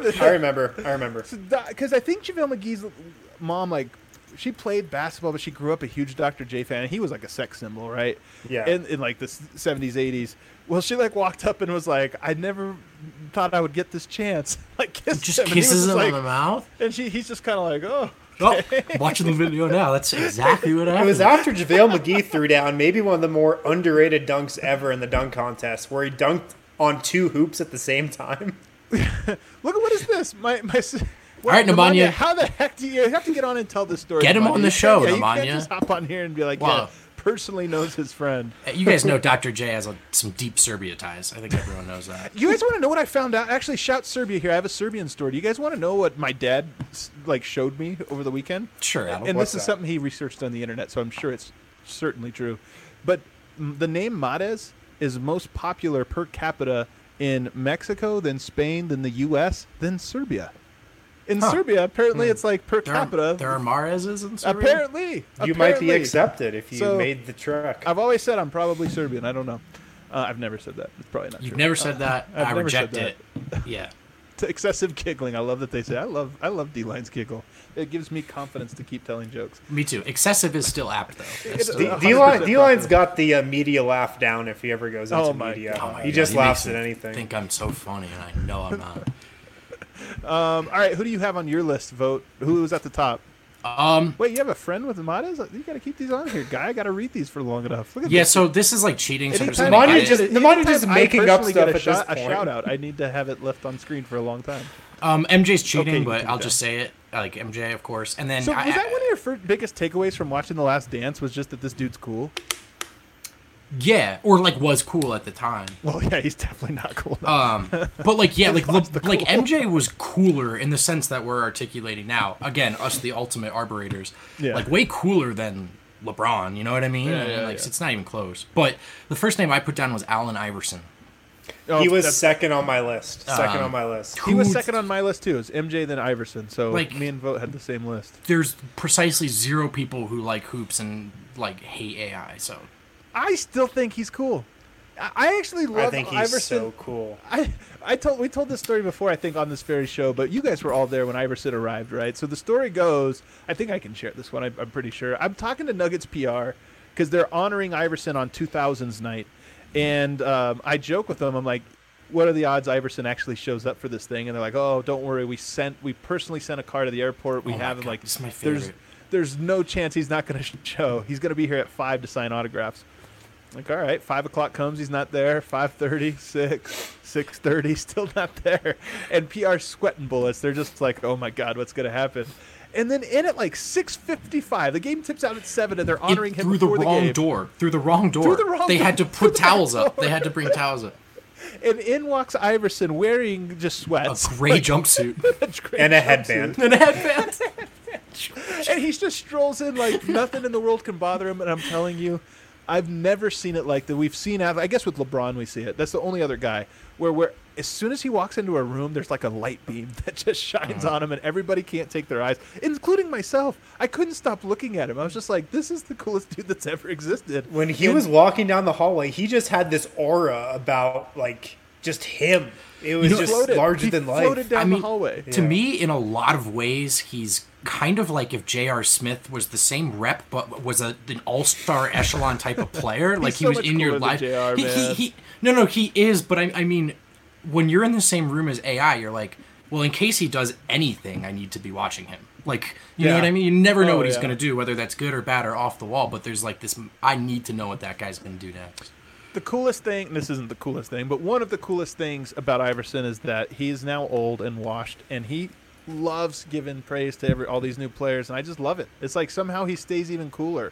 Because I think JaVale McGee's mom, like, she played basketball, but she grew up a huge Dr. J fan, and he was like a sex symbol, right? Yeah. In like the 70s, 80s. Well, she like walked up and was like, "I never thought I would get this chance." Like kissed Just him, and he was kisses just him like, on the mouth? and he's just kind of like, "Oh." Oh, watching the video now. That's exactly what happened. It was after JaVale McGee threw down maybe one of the more underrated dunks ever in the dunk contest, where he dunked on two hoops at the same time. Look at what is this? My All right, Nemanja. How the heck do you have to get on and tell this story? Get him Nemanja? on the You show, can't- You Nemanja. can't just hop on here and be like, Wow. "Yeah, personally knows his friend." You guys know Dr. J has some deep Serbia ties. I think everyone knows that. You guys want to know what I found out? Actually, shout Serbia here. I have a Serbian story. Do you guys want to know what my dad like showed me over the weekend? Sure, Adam. And What's this is that? something he researched on the internet, so I'm sure it's certainly true. But the name Mahrez is most popular per capita in Mexico, then Spain, then the U.S., then Serbia. In Serbia, apparently, it's like per capita. There are Mahrez's in Serbia? Apparently, You might be apparently. accepted if you So- made the trek. I've always said I'm probably Serbian. I don't know. I've never said that. It's probably not You've true. never said that. I've I never reject said it. Yeah. Excessive giggling. I love that they say. I love D-Line's giggle. It gives me confidence to keep telling jokes. Me too. Excessive is still apt, though. That's It- still- D-Line's got the media laugh down if he ever goes into Oh my media. God. Oh my He God, just he laughs makes at me anything. think I'm so funny, and I know I'm not. All right, who do you have on your list? Vote. Who was at the top? Wait, you have a friend with Mahrez? You got to keep these on here, guy. I got to read these for long enough. Look at Yeah, this. so this is like cheating. So I'm just Anytime gonna Nemanja edit. just- Nemanja just anytime I making up personally stuff get a at shot, this a point. shout out. I need to have it left on screen for a long time. MJ's cheating, Okay, you but can I'll do just say it. Like MJ, of course. And then So was that one of your biggest takeaways from watching The Last Dance? Was just that this dude's cool? yeah, or like was cool at the time. Well, yeah, he's definitely not cool. Now. But like yeah, like lost the like cool. MJ was cooler in the sense that we're articulating now. Again, us the ultimate arborators. Yeah. Like way cooler than LeBron. You know what I mean? Yeah, And, yeah, like yeah. it's not even close. But the first name I put down was Allen Iverson. Oh, He was that's- second on my list. Second on my list. He was Who- second on my list too. It was MJ then Iverson. So Like- me and Vote had the same list. There's precisely zero people who like hoops and like hate AI. So I still think he's cool. I actually love I think he's Iverson. so cool. We told this story before, I think, on this very show, but you guys were all there when Iverson arrived, right? So the story goes, I think I can share this one, I'm pretty sure. I'm talking to Nuggets PR because they're honoring Iverson on 2000s night. And I joke with them, I'm like, what are the odds Iverson actually shows up for this thing? And they're like, oh, don't worry, we personally sent a car to the airport. We Oh my have him God, like, this is my there's favorite. there's no chance he's not going to show. He's going to be here at 5 to sign autographs. Like, all right, 5 o'clock comes, he's not there. 5:30, 6:30, still not there. And PR sweating bullets. They're just like, oh my God, what's going to happen? And then in at like 6:55, the game tips out at 7, and they're honoring him through the before wrong game. door. Through the wrong door. Through the wrong they door. had to Through put the back towels up. door. They had to bring towels up. And in walks Iverson wearing just A sweats. gray jumpsuit Gray And a jumpsuit. headband. and a headband. And he just strolls in like nothing in the world can bother him. And I'm telling you, I've never seen it like that. We've seen, I guess with LeBron we see it. That's the only other guy where as soon as he walks into a room, there's like a light beam that just shines on him, and everybody can't take their eyes, including myself. I couldn't stop looking at him. I was just like, this is the coolest dude that's ever existed. When he was walking down the hallway, he just had this aura about like just him. It was just larger than life. Floated down the hallway. To me, in a lot of ways, he's kind of like if J.R. Smith was the same rep, but was an all-star echelon type of player. Like he was in your life. He is. But I mean, when you're in the same room as AI, you're like, well, in case he does anything, I need to be watching him. Like, you know what I mean? You never know what he's going to do, whether that's good or bad or off the wall. But there's like this, I need to know what that guy's going to do next. The coolest thing, and this isn't the coolest thing, but one of the coolest things about Iverson is that he's now old and washed, and he loves giving praise to all these new players, and I just love it. It's like somehow he stays even cooler.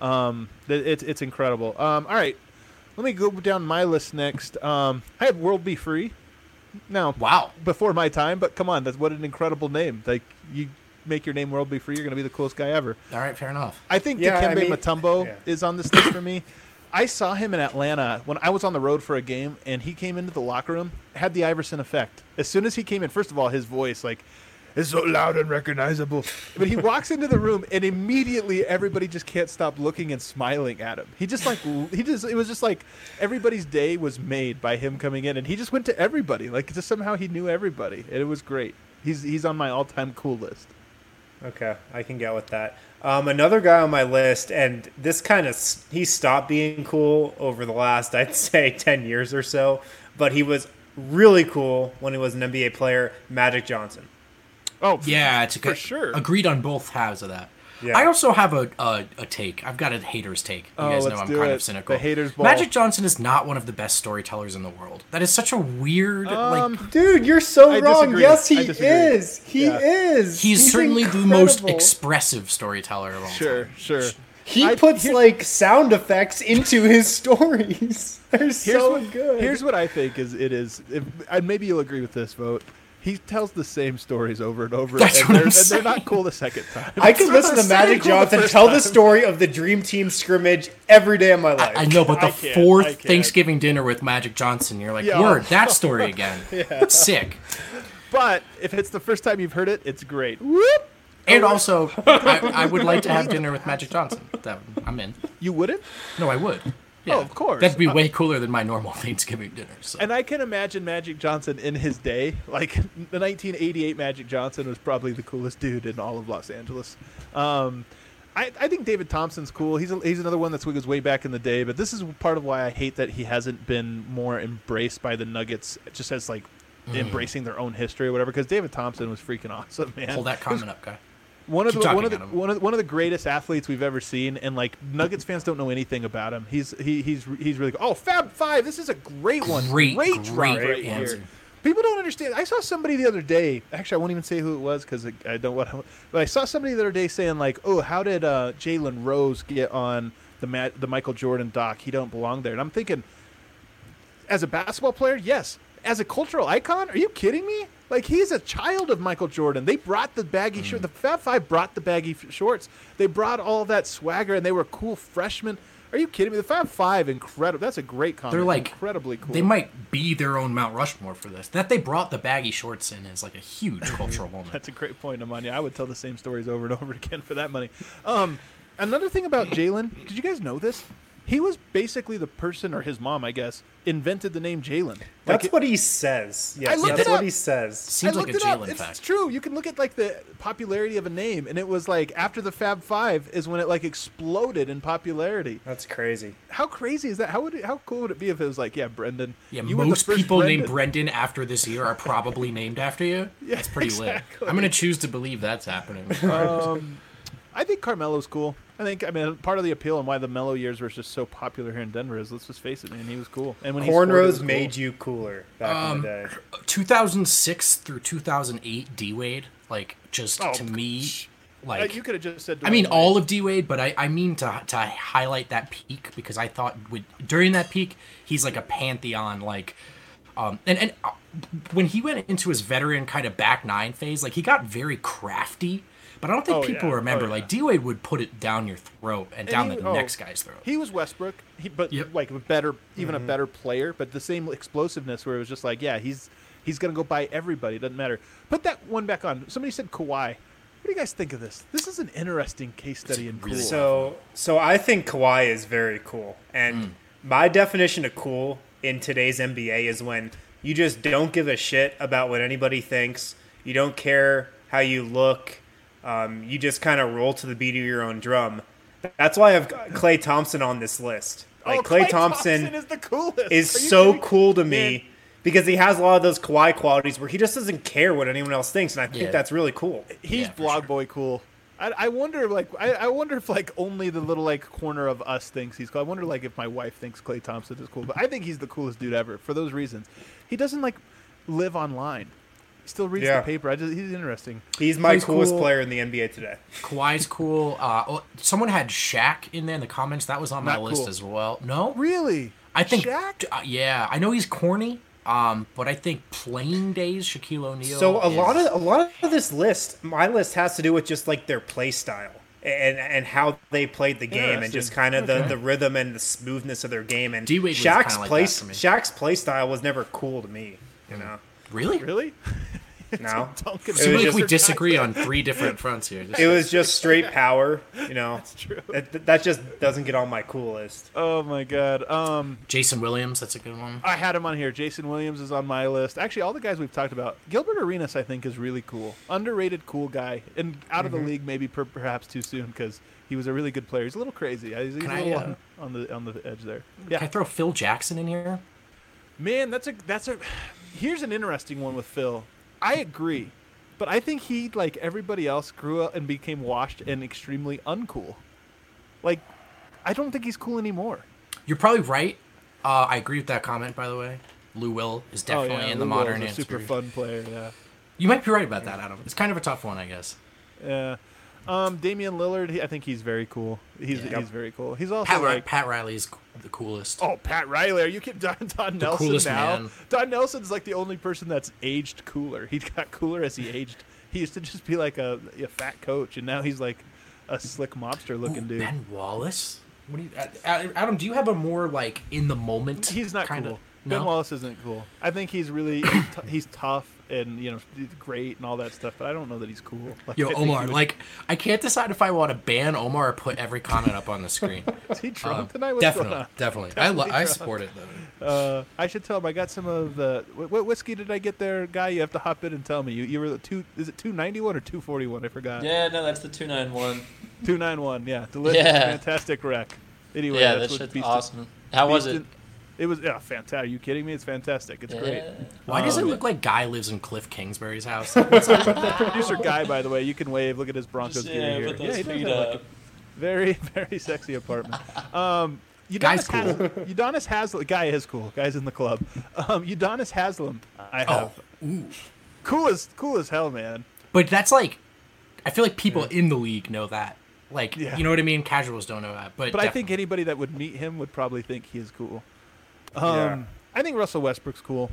It's incredible. All right, let me go down my list next. I have World Be Free. Now, wow, before my time, but come on, that's what an incredible name. Like, you make your name World Be Free, you're going to be the coolest guy ever. All right, fair enough. I think Dikembe Mutombo is on this list for me. I saw him in Atlanta when I was on the road for a game, and he came into the locker room, had the Iverson effect. As soon as he came in, first of all, his voice, like, is so loud and recognizable. But he walks into the room, and immediately everybody just can't stop looking and smiling at him. It was just like everybody's day was made by him coming in, and he just went to everybody. Like, just somehow he knew everybody, and it was great. He's on my all-time cool list. Okay, I can get with that. Another guy on my list, and this he stopped being cool over the last, I'd say, 10 years or so, but he was really cool when he was an NBA player, Magic Johnson. Oh, yeah, it's for sure. Agreed on both halves of that. Yeah. I also have a take. I've got a hater's take. You guys know I'm kind of cynical. The hater's ball. Magic Johnson is not one of the best storytellers in the world. That is such a weird, dude, you're so wrong. Disagree. Yes, he is. He is. He's certainly incredible. the most expressive storyteller of all time. Sure. He puts sound effects into his stories. They're so good. Here's what I think and maybe you'll agree with this, Vote. He tells the same stories over and over, and they're not cool the second time. I could listen to Magic Johnson tell the story of the Dream Team scrimmage every day of my life. I know, but the fourth Thanksgiving dinner with Magic Johnson, you're like, word, that story again. It's sick. But if it's the first time you've heard it, it's great. Whoop! And also, I would like to have dinner with Magic Johnson. I'm in. You wouldn't? No, I would. Yeah. Oh, of course. That'd be way cooler than my normal Thanksgiving dinner. So. And I can imagine Magic Johnson in his day. Like, the 1988 Magic Johnson was probably the coolest dude in all of Los Angeles. I think David Thompson's cool. He's another one that goes way back in the day. But this is part of why I hate that he hasn't been more embraced by the Nuggets, just as, like, embracing their own history or whatever. Because David Thompson was freaking awesome, man. Hold that comment up, guy. One of the greatest athletes we've ever seen, and like Nuggets fans don't know anything about him. He's really good. Oh, Fab Five, this is a great one. Great drop right here. People don't understand. I saw somebody the other day. Actually, I won't even say who it was because I don't want to. But I saw somebody the other day saying like, "Oh, how did Jalen Rose get on the Michael Jordan doc? He don't belong there." And I'm thinking, as a basketball player, yes. As a cultural icon, are you kidding me? Like, he's a child of Michael Jordan. They brought the baggy shorts. The Fab Five brought the baggy shorts. They brought all that swagger, and they were cool freshmen. Are you kidding me? The Fab Five, incredible. That's a great comment. They're like incredibly cool. They might be their own Mount Rushmore for this. That they brought the baggy shorts in is like a huge cultural moment. That's a great point, Amanya. I would tell the same stories over and over again for that money. Another thing about Jalen, did you guys know this? He was basically the person, or his mom, I guess, invented the name Jalen. That's what he says. Yes, that's what he says. Seems like a Jalen fact. It's true. You can look at like the popularity of a name, and it was like after the Fab Five is when it like exploded in popularity. That's crazy. How crazy is that? How cool would it be if it was like, Brendan? Yeah, most people named Brendan after this year are probably named after you. Yeah, that's pretty lit. I'm gonna choose to believe that's happening. I think Carmelo's cool. Part of the appeal and why the Melo years were just so popular here in Denver is, let's just face it, man, he was cool. And when cornrows made you cooler back in the day. 2006 through 2008 D-Wade, like, just to me, like... You could have just said... all of D-Wade, but I mean to highlight that peak, because I thought during that peak, he's like a pantheon, like... And when he went into his veteran kind of back nine phase, like, he got very crafty. But I don't think Oh, people yeah. remember. Oh, yeah. Like D-Wade would put it down your throat and down the next guy's throat. He was Westbrook, but Yep. like a better, even a better player, but the same explosiveness where it was just like, yeah, he's gonna go by everybody. It doesn't matter. Put that one back on. Somebody said Kawhi. What do you guys think of this? This is an interesting case study in cool. So I think Kawhi is very cool, and my definition of cool in today's NBA is when you just don't give a shit about what anybody thinks. You don't care how you look. You just kind of roll to the beat of your own drum. That's why I have Klay Thompson on this list. Like Klay Thompson is the coolest. is Are you so kidding? cool to Man, me because he has a lot of those Kawhi qualities where he just doesn't care what anyone else thinks, and I think Yeah. that's really cool. He's Yeah, for blog sure. boy cool. I wonder, like, I wonder if like only the little like corner of us thinks he's cool. I wonder like if my wife thinks Klay Thompson is cool, but I think he's the coolest dude ever for those reasons. He doesn't like live online. He still reads Yeah. the paper. He's interesting. He's my He's coolest cool. player in the NBA today. Kawhi's cool. Someone had Shaq in there in the comments. That was on my Not list cool. as well. No, Really? I think. Shaq? Yeah, I know he's corny. But I think playing days, Shaquille O'Neal. So a is- lot of this list, my list has to do with just like their play style and how they played the game and just Interesting. kind of the rhythm and the smoothness of their game. And D-Wade was Shaq's kinda like play that for me. Shaq's play style was never cool to me. You know, Really. Really? no, Duncan Seems like just- we disagree on three different fronts here. it was just straight power. You know, That's true. that just doesn't get on my cool list. Oh my god. Jason Williams. That's a good one. I had him on here. Jason Williams is on my list. Actually, all the guys we've talked about. Gilbert Arenas, I think, is really cool. Underrated, cool guy, and out of the league maybe perhaps too soon because he was a really good player. He's a little crazy. He's a Can little I, on the edge there. Can I Yeah, throw Phil Jackson in here? man, that's a. Here's an interesting one with Phil. I agree, but I think he, like everybody else, grew up and became washed and extremely uncool. Like, I don't think he's cool anymore. You're probably right. I agree with that comment, by the way. Lou Will is definitely in the Lou Will's modern a answer. super fun player. Yeah. You might be right about that, Adam. It's kind of a tough one, I guess. Yeah. Damian Lillard, I think he's very cool. He's very cool. He's also Pat Riley's the coolest. oh, Pat Riley. Are you kidding? Don Nelson coolest now? man. Don Nelson's like the only person that's aged cooler. He got cooler as he aged. He used to just be like a fat coach, and now he's like a slick mobster looking dude. Ben Wallace. What do you, Adam? Do you have a more like in the moment? He's not kinda, cool. No? Ben Wallace isn't cool. I think he's really he's tough and great and all that stuff, but I don't know that he's cool. Like, Yo, I think he Omar. would- Like, I can't decide if I want to ban Omar or put every comment up on the screen. is he drunk tonight? What's going on? Definitely. Definitely I drunk. support it though. I should tell him I got some of the what whiskey did I get there, guy? You have to hop in and tell me. You were is it 291 or 241? I forgot. Yeah, no, that's the 291. 291. Yeah, delicious, Yeah. fantastic wreck. Anyway, Yeah, that's that what shit's Beast- awesome. How was Beast it? in- It was fantastic. Are you kidding me? It's fantastic. It's great. Yeah. Why does it look like Guy lives in Cliff Kingsbury's house? Producer guy, by the way, you can wave. Look at his Broncos Just, gear here. put those Yeah, he does feet have like up. a very very sexy apartment. Guy's Udonis cool. Udonis Haslam. Guy is cool. Guy's in the club. Udonis Haslam. I have. Cool as hell, man. But that's like, I feel like people in the league know that. Like, Yeah. you know what I mean? Casuals don't know that. But But I think definitely. anybody that would meet him would probably think he is cool. Yeah. I think Russell Westbrook's cool.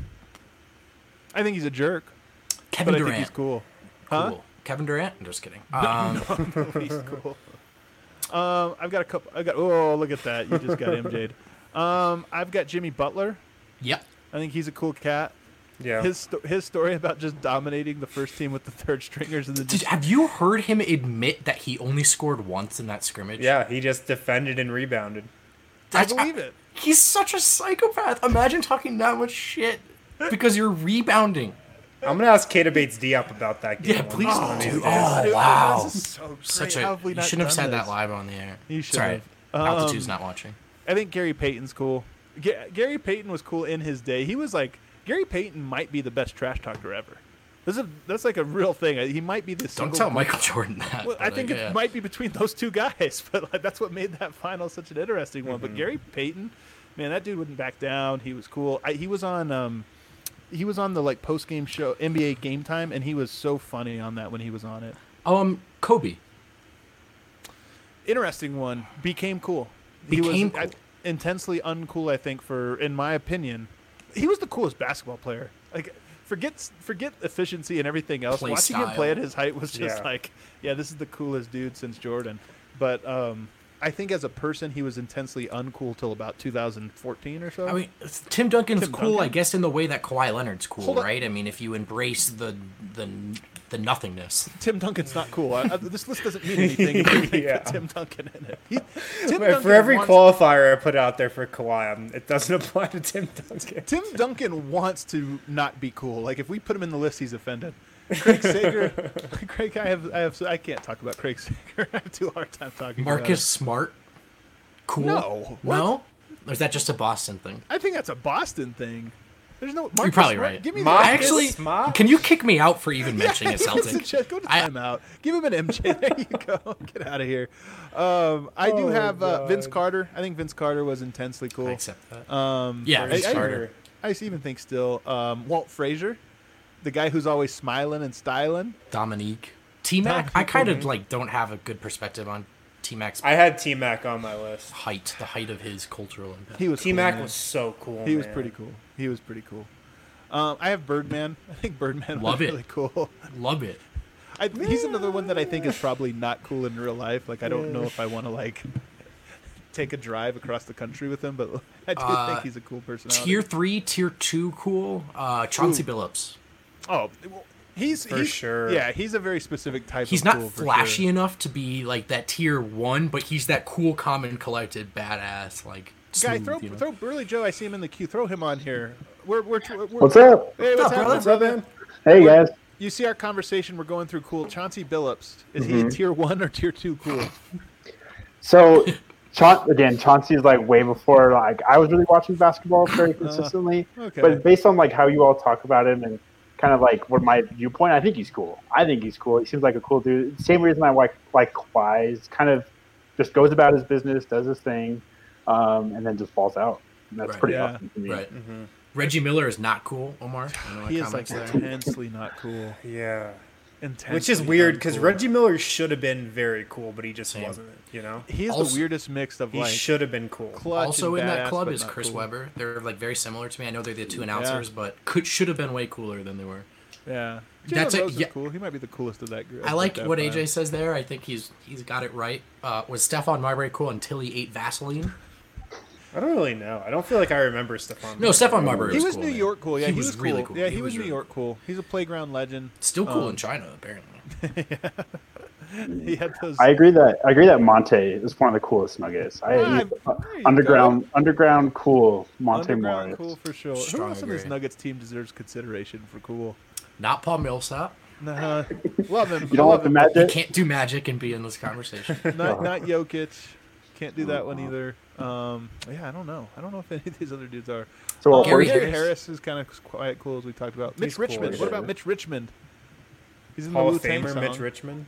I think he's a jerk, Kevin but I Durant. think he's cool. Huh? Cool. Kevin Durant? I'm just kidding. He's cool. I've got a couple. Oh, look at that! You just got MJ'd. I've got Jimmy Butler. Yep. I think he's a cool cat. Yeah. His story about just dominating the first team with the third stringers and then Did, just have you heard him admit that he only scored once in that scrimmage? Yeah, he just defended and rebounded. I believe it. He's such a psychopath. Imagine talking that much shit because you're rebounding. I'm gonna ask Kata Bates Diop about that game. Yeah, one please of don't these do. days. Oh wow, This is so great. such How a. have we You not shouldn't have done said that this? live on the air. You should Sorry, have. Altitude's not watching. I think Gary Payton's cool. Gary Payton was cool in his day. He was like Gary Payton might be the best trash talker ever. That's like a real thing. He might be the Don't single. tell Michael Jordan that. Well, I but, think like, it yeah. might be between those two guys, but like, that's what made that final such an interesting one. Mm-hmm. But Gary Payton, man, that dude wouldn't back down. He was cool. He was on the like post game show NBA Game Time, and he was so funny on that when he was on it. Kobe. Interesting one. Became cool. Became he was cool. Intensely uncool. I think in my opinion, he was the coolest basketball player. Like forget efficiency and everything else. Play Watching him style. play at his height was just Yeah. like, yeah, this is the coolest dude since Jordan. But I think as a person, he was intensely uncool till about 2014 or so. I mean, Tim Duncan's Tim cool, I Duncan? guess, in the way that Kawhi Leonard's cool, Hold on. right? I mean, if you embrace the nothingness. Tim Duncan's not cool. This list doesn't mean anything if you think Yeah. put Tim Duncan in it. Tim Wait, for Duncan every wants- qualifier I put out there for Kawhi, it doesn't apply to Tim Duncan. Tim Duncan wants to not be cool. Like if we put him in the list, he's offended. Craig Sager, Craig, I can't talk about Craig Sager. I have too hard time talking. Marcus Smart, cool. No. No? Or is that just a Boston thing? I think that's a Boston thing. There's no. You're Marcus probably Smart, right. Give me Marcus I actually, Smart? can you kick me out for even mentioning a He wants to Celtic? just go to I- timeout. Give him an MJ. There you go. Get out of here. I do Oh, have Vince God. Carter. I think Vince Carter was intensely cool. I accept that. Yeah, Vince Carter. I even think still Walt Frazier, the guy who's always smiling and styling. Dominique. T-Mac, I kind of like don't have a good perspective on T-Mac's I had T-Mac on my list. height, the height of his cultural impact. He was T-Mac cool, man. was so cool. He was man. pretty cool. He was pretty cool. I have Birdman. I think Birdman Love was it. really cool. Love it. He's another one that I think is probably not cool in real life. Like I don't know if I want to like take a drive across the country with him, but I do think he's a cool personality. Tier 3, Tier 2 cool. Chauncey Billups. Oh, well, he's sure. Yeah, he's a very specific type. He's of not cool, for flashy sure. enough to be like that Tier 1, but he's that cool, calm, and collected, badass, like Guy, smooth, throw Burley Joe. I see him in the queue. Throw him on here. We're What's up? Hey, what's What's up, happening? brother? What's up, man? Hey guys. You see our conversation. We're going through cool. Chauncey Billups. Is he Tier 1 or Tier 2 cool? So, Chauncey's like way before like I was really watching basketball very consistently. okay. But based on like how you all talk about him and kind of like what my viewpoint, I think he's cool. He seems like a cool dude. Same reason I like Kawhi. He's kind of just goes about his business, does his thing, and then just falls out. And that's Right. pretty Yeah. awesome to me. Right. Reggie Miller is not cool, Omar. I know He my is like comments there. intensely not cool. Yeah. Intensely Which is weird because uncool. Reggie Miller should have been very cool, but he just Same. wasn't. You know, He's Also- the weirdest mix of he like should have been cool. clutch Also and in that badass, club but is not Chris cool. Webber. They're like very similar to me. I know they're the two announcers, but should have been way cooler than they were. Yeah, That's Jalen it, Rose is yeah. cool. He might be the coolest of that group. I like that what five. AJ says there. I think he's got it right. Was Stephon Marbury cool until he ate Vaseline? I don't really know. I don't feel like I remember Stephon. No, Stephon Marbury He was was cool, New man. York cool. Yeah, He he was was really cool. cool. Yeah, He he was was New really York cool. He's a playground legend. Still cool in China, apparently. He had those. I agree that Monte is one of the coolest Nuggets. There you Underground cool Monte Underground Morris. cool for sure. Strong Who else on this agree. Nuggets team deserves consideration for cool? Not Paul Millsap. Nah, love him. You don't love want the him. He magic? can't do magic and be in this conversation. Not Jokic. Can't do that one either. Yeah, I don't know. I don't know if any of these other dudes are. So Gary Gary Harris. Harris is kind of quiet cool as we talked about. Mitch He's cool, Richmond. yeah. What about Mitch Richmond? He's in Hall the of Wu-Tang Famer song. Mitch Richmond.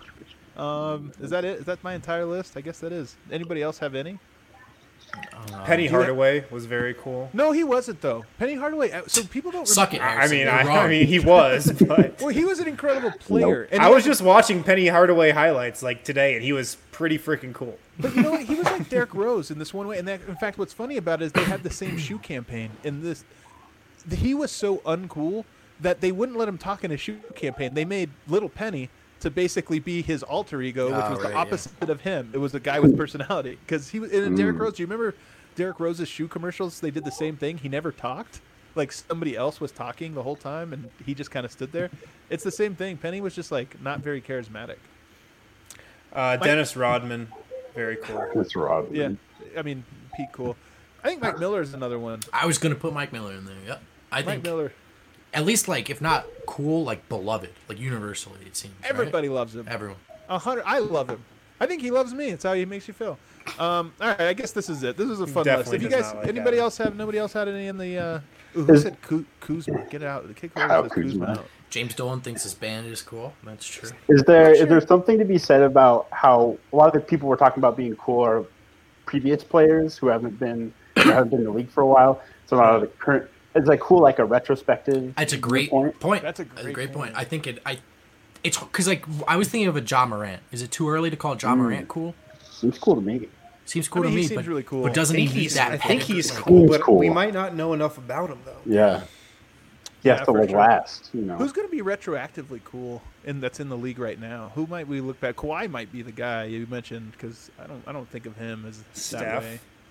Is that it? Is that my entire list? I guess that is. Anybody else have any? Penny do you have- Hardaway was very cool. No, he wasn't though. Penny Hardaway. So people don't Suck it, remember- I Harrison. mean, You're I wrong. mean, he was, but Well, he was an incredible player. And I he was just watching Penny Hardaway highlights like today, and he was pretty freaking cool. But you know what? He was like Derrick Rose in this one way. And that, in fact, what's funny about it is they had the same shoe campaign. In this, he was so uncool that they wouldn't let him talk in a shoe campaign. They made Little Penny to basically be his alter ego, which Oh, was right, the yeah. opposite of him. It was the guy with personality. Because he was in Derrick Rose. Do you remember Derrick Rose's shoe commercials? They did the same thing. He never talked. Like somebody else was talking the whole time, and he just kind of stood there. It's the same thing. Penny was just like not very charismatic. Dennis Rodman, very cool. That's Rob. Yeah, I mean, Pete cool. I think Mike Miller is another one. I was gonna put Mike Miller in there. Yep. I Mike think Miller. at least like if not cool, like beloved, like universally it seems. right? Everybody loves him. Everyone. 100. I love him. I think he loves me. It's how he makes you feel. All right, I guess this is it. This is a fun Definitely list. If you does guys, not like anybody Adam. else have? Nobody else had any in the? Who Is- said Kuzma? Get out. The kick Kyle says Kuzma Kuzma. out. James Dolan thinks his band is cool. That's true. Is there something to be said about how a lot of the people we're talking about being cool are previous players who haven't been in the league for a while? So a lot of the current it's like cool, like a retrospective. It's a great point. point. That's a great point. point. I think it's because like I was thinking of a Ja Morant. Is it too early to call Ja Morant cool? Seems cool to me. Seems cool I mean, to he me, seems but, really cool. but doesn't he meet that? I think he's like, cool, He's but cool. we might not know enough about him though. Yeah. he has Yeah, to for like sure. last. You know, Who's going to be retroactively cool and that's in the league right now? Who might we look back? Kawhi might be the guy you mentioned because I don't think of him as Steph.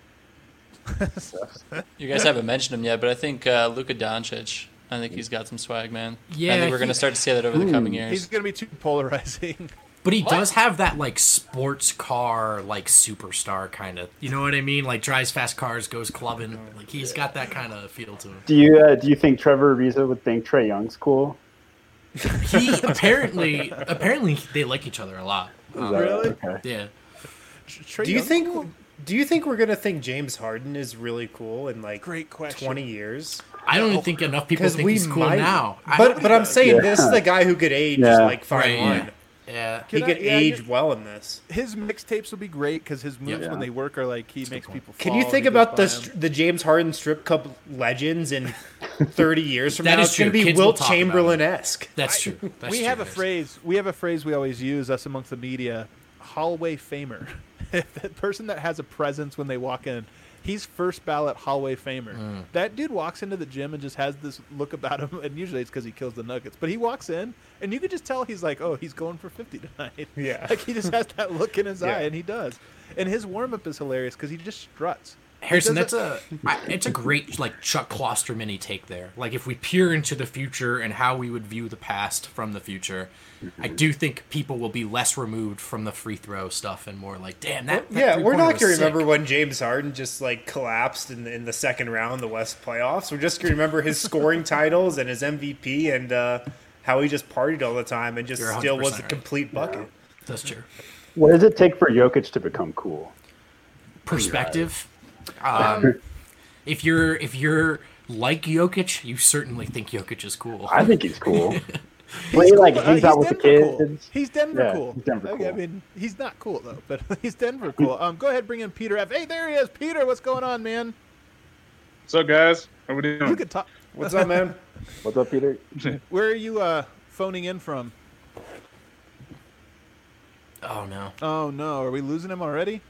that way. You guys haven't mentioned him yet, but I think Luka Doncic. I think he's got some swag, man. Yeah, I think we're going to start to see that over the coming He's years. going to be too polarizing. But he does have that like sports car like superstar kind of. You know what I mean? Like drives fast cars, goes clubbing. Like he's got that kind of feel to him. do you think Trevor Ariza would think Trae Young's cool? He apparently they like each other a lot. Really? Okay. Yeah. Trae Do you Young's think? cool? Do you think we're gonna think James Harden is really cool in like Great question. 20 years? I don't think enough people think he's cool now. But I'm saying Yeah. this is the guy who could age Yeah. like fine Right, wine. Yeah. He could age well in this. His mixtapes will be great because his moves Yeah. when they work are like he makes people. Can fall you and think he goes about by the 'em. the James Harden strip club legends in 30 years from That now? is It's going to true. be Kids will Wilt talk about it. Chamberlain-esque. That's true. That's We true. have a There's- phrase. We have a phrase we always use us amongst the media. Hallway famer. The person that has a presence when they walk in. He's first ballot Hallway famer. That dude walks into the gym and just has this look about him, and usually it's because he kills the Nuggets. But he walks in, and you could just tell he's like, "Oh, he's going for 50 tonight." Yeah. like he just has that look in his Yeah. eye, and he does. And his warm up is hilarious because he just struts. Harrison, He that's doesn't- it's a great like Chuck Klosterman take there. Like if we peer into the future and how we would view the past from the future, I do think people will be less removed from the free throw stuff and more like, damn that. Yeah, we're three-pointer not was going to sick. remember when James Harden just like collapsed in the second round of the West playoffs. We're just going to remember his scoring titles and his MVP and how he just partied all the time and just You're still was 100% a right. complete bucket. That's true. What does it take for Jokic to become cool? Perspective. If you're like Jokic, you certainly think Jokic is cool. I think he's cool. Well, he like hangs out with the Denver cool. kids. He's Denver Yeah, cool. he's Denver I cool. mean, he's not cool though, but he's Denver cool. Go ahead, bring in Peter F. Hey, there he is, Peter. What's going on, man? What's up, guys? How we You doing? could talk. What's up, man? What's up, Peter? Where are you phoning in from? Oh no. Oh no, are we losing him already?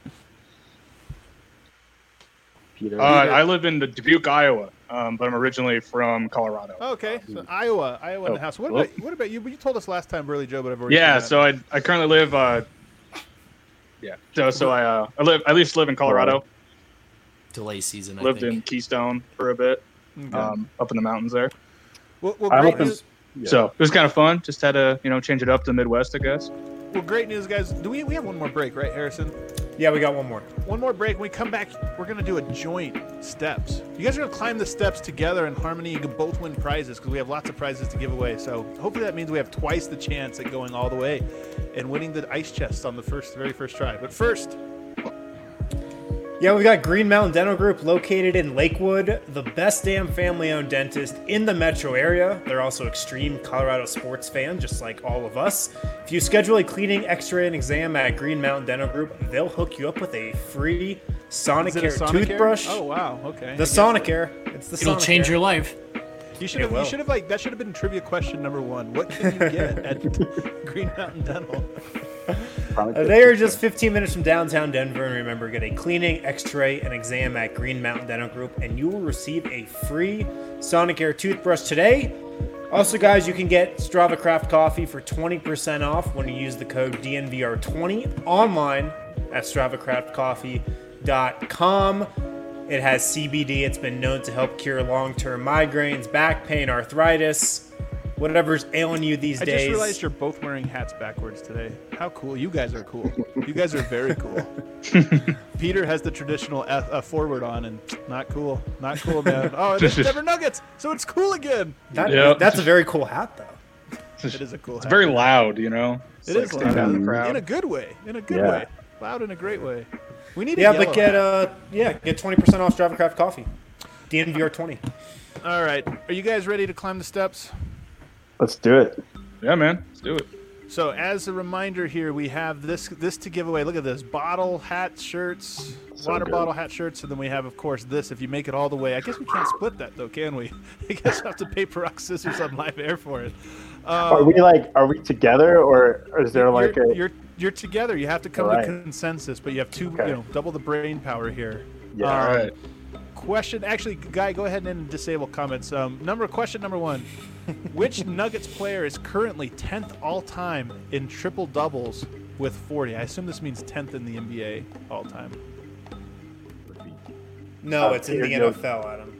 Peter. I live in Dubuque, Iowa, but I'm originally from Colorado. Okay, so Iowa in the house. What about you? You told us last time, Burley Joe, but I've already Yeah, forgotten. so I currently live. I used to live in Colorado. Delay season. Lived I think. in Keystone for a bit, up in the mountains there. Well, I'm great up in- news. Yeah. So it was kind of fun. Just had to change it up to the Midwest, I guess. Well, great news, guys. Do we have one more break, right, Harrison? Yeah, we got one more. One more break. When we come back, we're going to do a joint steps. You guys are going to climb the steps together in harmony. You can both win prizes because we have lots of prizes to give away. So hopefully that means we have twice the chance at going all the way and winning the ice chest on the very first try. But first, Yeah, we got Green Mountain Dental Group located in Lakewood, the best damn family-owned dentist in the metro area. They're also extreme Colorado sports fans, just like all of us. If you schedule a cleaning, x-ray, and exam at Green Mountain Dental Group, they'll hook you up with a free Sonicare is it a Sonicare? toothbrush. Oh, wow. Okay. The Sonicare. It's the It'll Sonicare. change your life. You should It will. have that should have been trivia question number one. What can you get at Green Mountain Dental? They are just 15 minutes from downtown Denver, and remember, get a cleaning, x-ray, and exam at Green Mountain Dental Group, and you will receive a free Sonicare toothbrush today. Also, guys, you can get Strava Craft Coffee for 20% off when you use the code DNVR20 online at StravaCraftCoffee.com. It has CBD. It's been known to help cure long-term migraines, back pain, arthritis, whatever's ailing you these I days. just realized you're both wearing hats backwards today. How cool. You guys are cool. You guys are very cool. Peter has the traditional forward on and not cool. Not cool, man. Oh, it's Denver Nuggets, so it's cool again. That's a very cool hat, though. It is a cool It's hat. very loud, It's It like is standing loud. out in the crowd. In a good way. In a good Yeah. way. Loud in a great way. We need Yeah, a but yellow hat. get 20% off Strava Craft Coffee. DNVR20. All right. Are you guys ready to climb the steps? Let's do it. Yeah, man. Let's do it. So as a reminder here, we have this to give away. Look at this. Bottle, hat, shirts, So water good. bottle, hat, shirts, and then we have, of course, this. If you make it all the way. I guess we can't split that, though, can we? I guess we'll have to pay rock, scissors on live air for it. Are we together, or is there like You're together. You have to come All right. to consensus, but you have two, Okay. double the brain power here. Yeah. All right. question. Actually, Guy, go ahead and disable comments. Question number 1. Which Nuggets player is currently 10th all time in triple doubles with 40? I assume this means 10th in the NBA all time. No, it's in the Peter, NFL, Adam.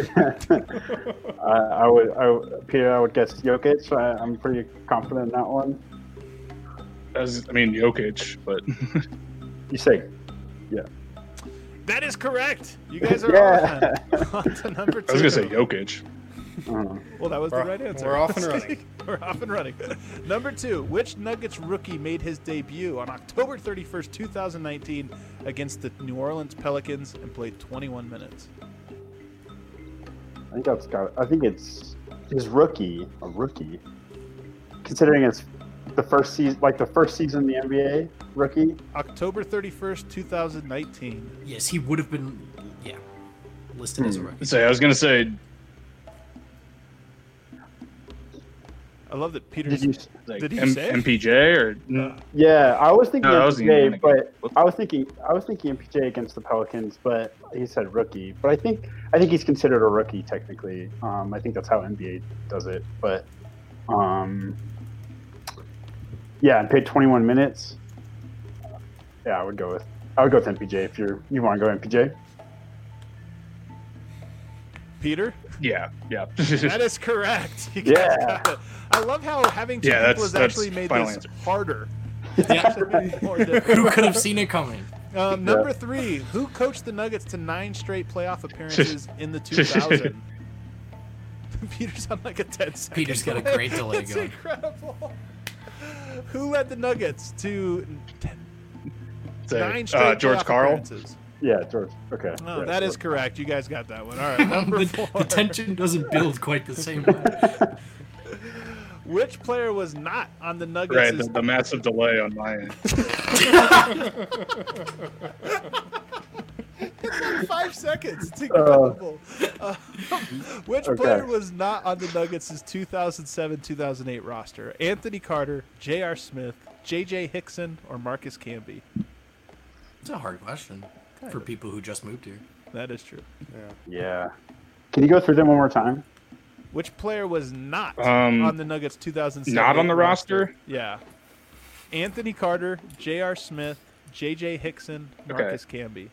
Peter, I would guess Jokic. I'm pretty confident in that one. Jokic, but You say, yeah. That is correct. You guys are on to number 2. I was gonna say Jokic. Well, that was the right answer. We're off and running. We're off and running. Number 2. Which Nuggets rookie made his debut on October 31st, 2019 against the New Orleans Pelicans and played 21 minutes? I think it's his rookie. Considering it's the first season, like the first season in the NBA, rookie. October 31st, 2019. Yes, he would have been, listed as a rookie. I was gonna say. I love that Peter. Did he say MPJ or? Yeah, I was thinking No, that was MPJ, the- but I was thinking MPJ against the Pelicans, but he said rookie. But I think he's considered a rookie technically. I think that's how NBA does it. But and paid 21 minutes. Yeah, I would go with MPJ if you want to go MPJ. Peter? Yeah. That is correct. You guys got it. I love how having two people has actually made final this answer. harder. More Who difficult. could have seen it coming? Number 3. Who coached the Nuggets to 9 straight playoff appearances in the 2000? Peter's on like a 10-second. Peter's got a great delay It's going. incredible. Who led the Nuggets to 9 straight George playoff Karl. appearances? Yeah, George. Okay. Oh, yeah, that is George. correct. You guys got that one. All right, number 4. The tension doesn't build quite the same way. Which player was not on the Nuggets? Right, the massive delay on my end. 5 seconds. It's incredible. Which player was not on the Nuggets' 2007-2008 roster? Anthony Carter, J.R. Smith, J.J. Hickson, or Marcus Camby? It's a hard question for people who just moved here. That is true. Yeah. Can you go through them one more time? Which player was not on the Nuggets 2007? Not on the roster? Yeah. Anthony Carter, J.R. Smith, J.J. Hickson, Marcus Camby.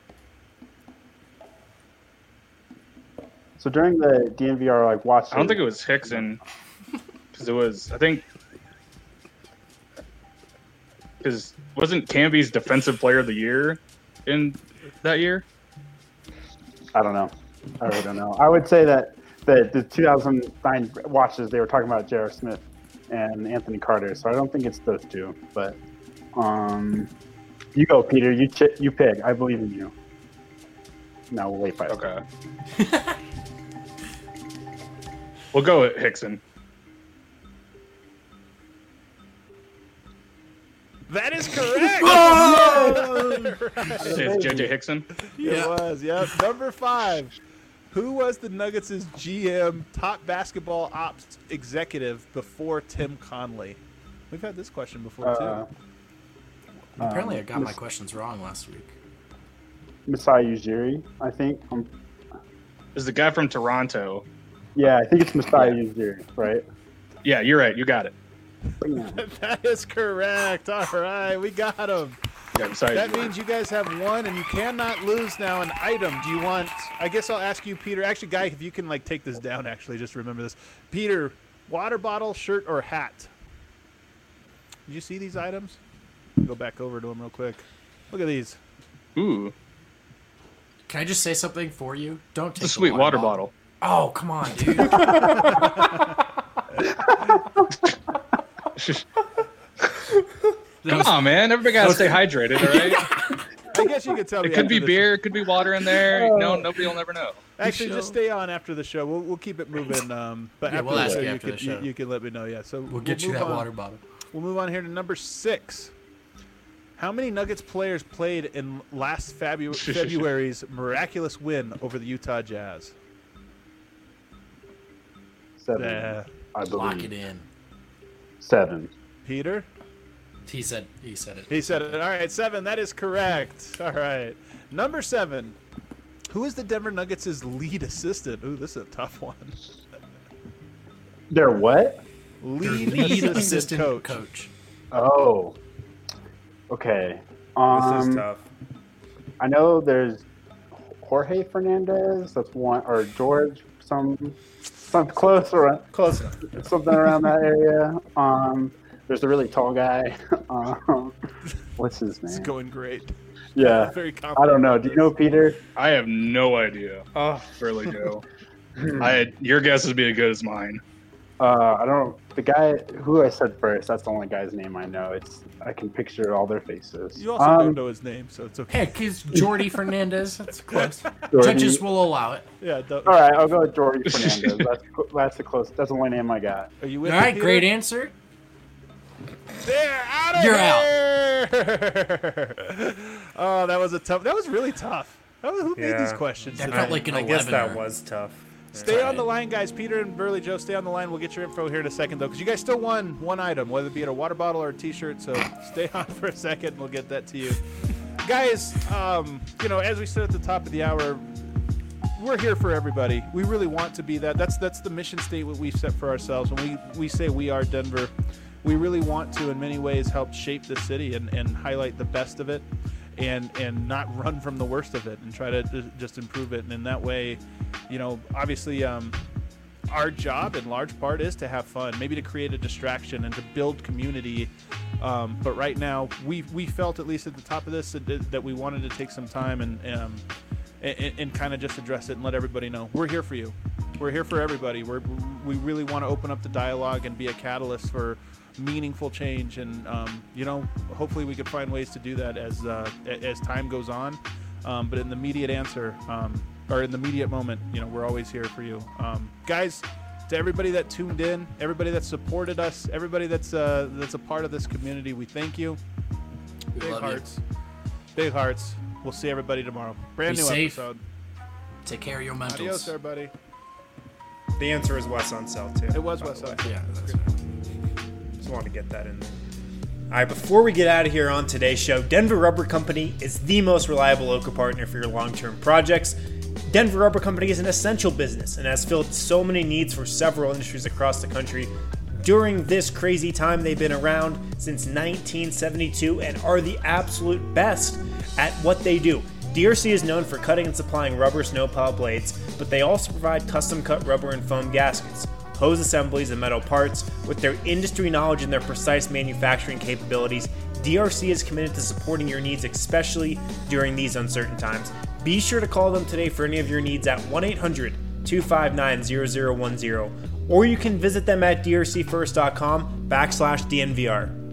So during the DNVR watch, I don't think it was Hickson, because it was. I think because wasn't Camby's Defensive Player of the Year in that year? I don't know. I really don't know. I would say that the 2009 watches, they were talking about J.R. Smith and Anthony Carter, so I don't think it's those two. But you go, Peter. You pick. I believe in you. No, we'll wait 5 seconds. Okay. We'll go with Hickson. That is correct. It's JJ Hickson. It was, yep. Number 5. Who was the Nuggets' GM, top basketball ops executive before Tim Conley? We've had this question before, too. Apparently I got my questions wrong last week. Masai Ujiri, I think. Is the guy from Toronto? Yeah, I think it's Masai Ujiri, right? Yeah, you're right. You got it. That is correct. All right, we got him. Yeah, sorry. That means you guys have won, and you cannot lose now an item. Do you want... I guess I'll ask you, Peter. Actually, Guy, if you can take this down, actually, just remember this. Peter, water bottle, shirt, or hat? Did you see these items? Go back over to them real quick. Look at these. Ooh, Can I just say something for you? Don't take it's a sweet water bottle. Oh, come on, dude. Come on, man. Everybody got to stay hydrated, all right? I guess you could tell me. It could after be the beer. It could be water in there. No, nobody will never know. Actually, just stay on after the show. We'll keep it moving. But Yeah, after we'll the ask show, you you after can the show. you can let me know. Yeah, so We'll get you move that on. water bottle. We'll move on here to number 6. How many Nuggets players played in last February's miraculous win over the Utah Jazz? 7, I believe. Lock it in. 7. He Peter? said it. He said it. All right, 7. That is correct. All right. Number 7. Who is the Denver Nuggets' lead assistant? Ooh, this is a tough one. They're what? Lead assistant coach. Oh. Okay. This is tough. I know there's Jorge Fernandez. That's one, or George. Something close or Close enough. something around that area. There's the really tall guy. What's his name? It's going great. Yeah. Very I confident. don't know. Do you know Peter? I have no idea. Oh, Really do. Your guess is being as good as mine. I don't. The guy who I said first. That's the only guy's name I know. I can picture all their faces. You also don't know his name, so it's okay. Heck, it's Jordy Fernandez. That's close. Jordy. Judges will allow it. Yeah. All right, I'll go with Jordy Fernandez. That's the close. That's the only name I got. Are you with All me, right, Peter? great answer. They're out of You're here! Oh, that was that was really tough. Who made these Yeah. questions? That felt like an I guess 11er. that was tough. Stay on the line, guys. Peter and Burley Joe, stay on the line. We'll get your info here in a second, though, because you guys still won one item, whether it be a water bottle or a T-shirt. So stay on for a second, and we'll get that to you. Guys, as we said at the top of the hour, we're here for everybody. We really want to be that. That's the mission statement we've set for ourselves. When we say we are Denver, we really want to, in many ways, help shape the city and highlight the best of it. And not run from the worst of it and try to just improve it. And in that way, obviously our job in large part is to have fun, maybe to create a distraction and to build community. But right now we felt, at least at the top of this, that we wanted to take some time and kind of just address it and let everybody know we're here for you. We're here for everybody. We really want to open up the dialogue and be a catalyst for meaningful change, and hopefully we could find ways to do that as time goes on. But in the immediate or in the immediate moment, we're always here for you, guys. To everybody that tuned in, everybody that supported us, everybody that's a part of this community, we thank you. We love you. Big hearts. We'll see everybody tomorrow. Brand Be new safe. episode. Take care of your mentals. Adios, everybody. The answer is Wes on cell too. It was by Wes the way. on. Yeah, that's right. Just wanted to get that in there. All right, before we get out of here on today's show, Denver Rubber Company is the most reliable local partner for your long-term projects. Denver Rubber Company is an essential business and has filled so many needs for several industries across the country during this crazy time. They've been around since 1972 and are the absolute best at what they do. DRC is known for cutting and supplying rubber snowplow blades, but they also provide custom-cut rubber and foam gaskets, hose assemblies, and metal parts. With their industry knowledge and their precise manufacturing capabilities, DRC is committed to supporting your needs, especially during these uncertain times. Be sure to call them today for any of your needs at 1-800-259-0010, or you can visit them at drcfirst.com/DNVR.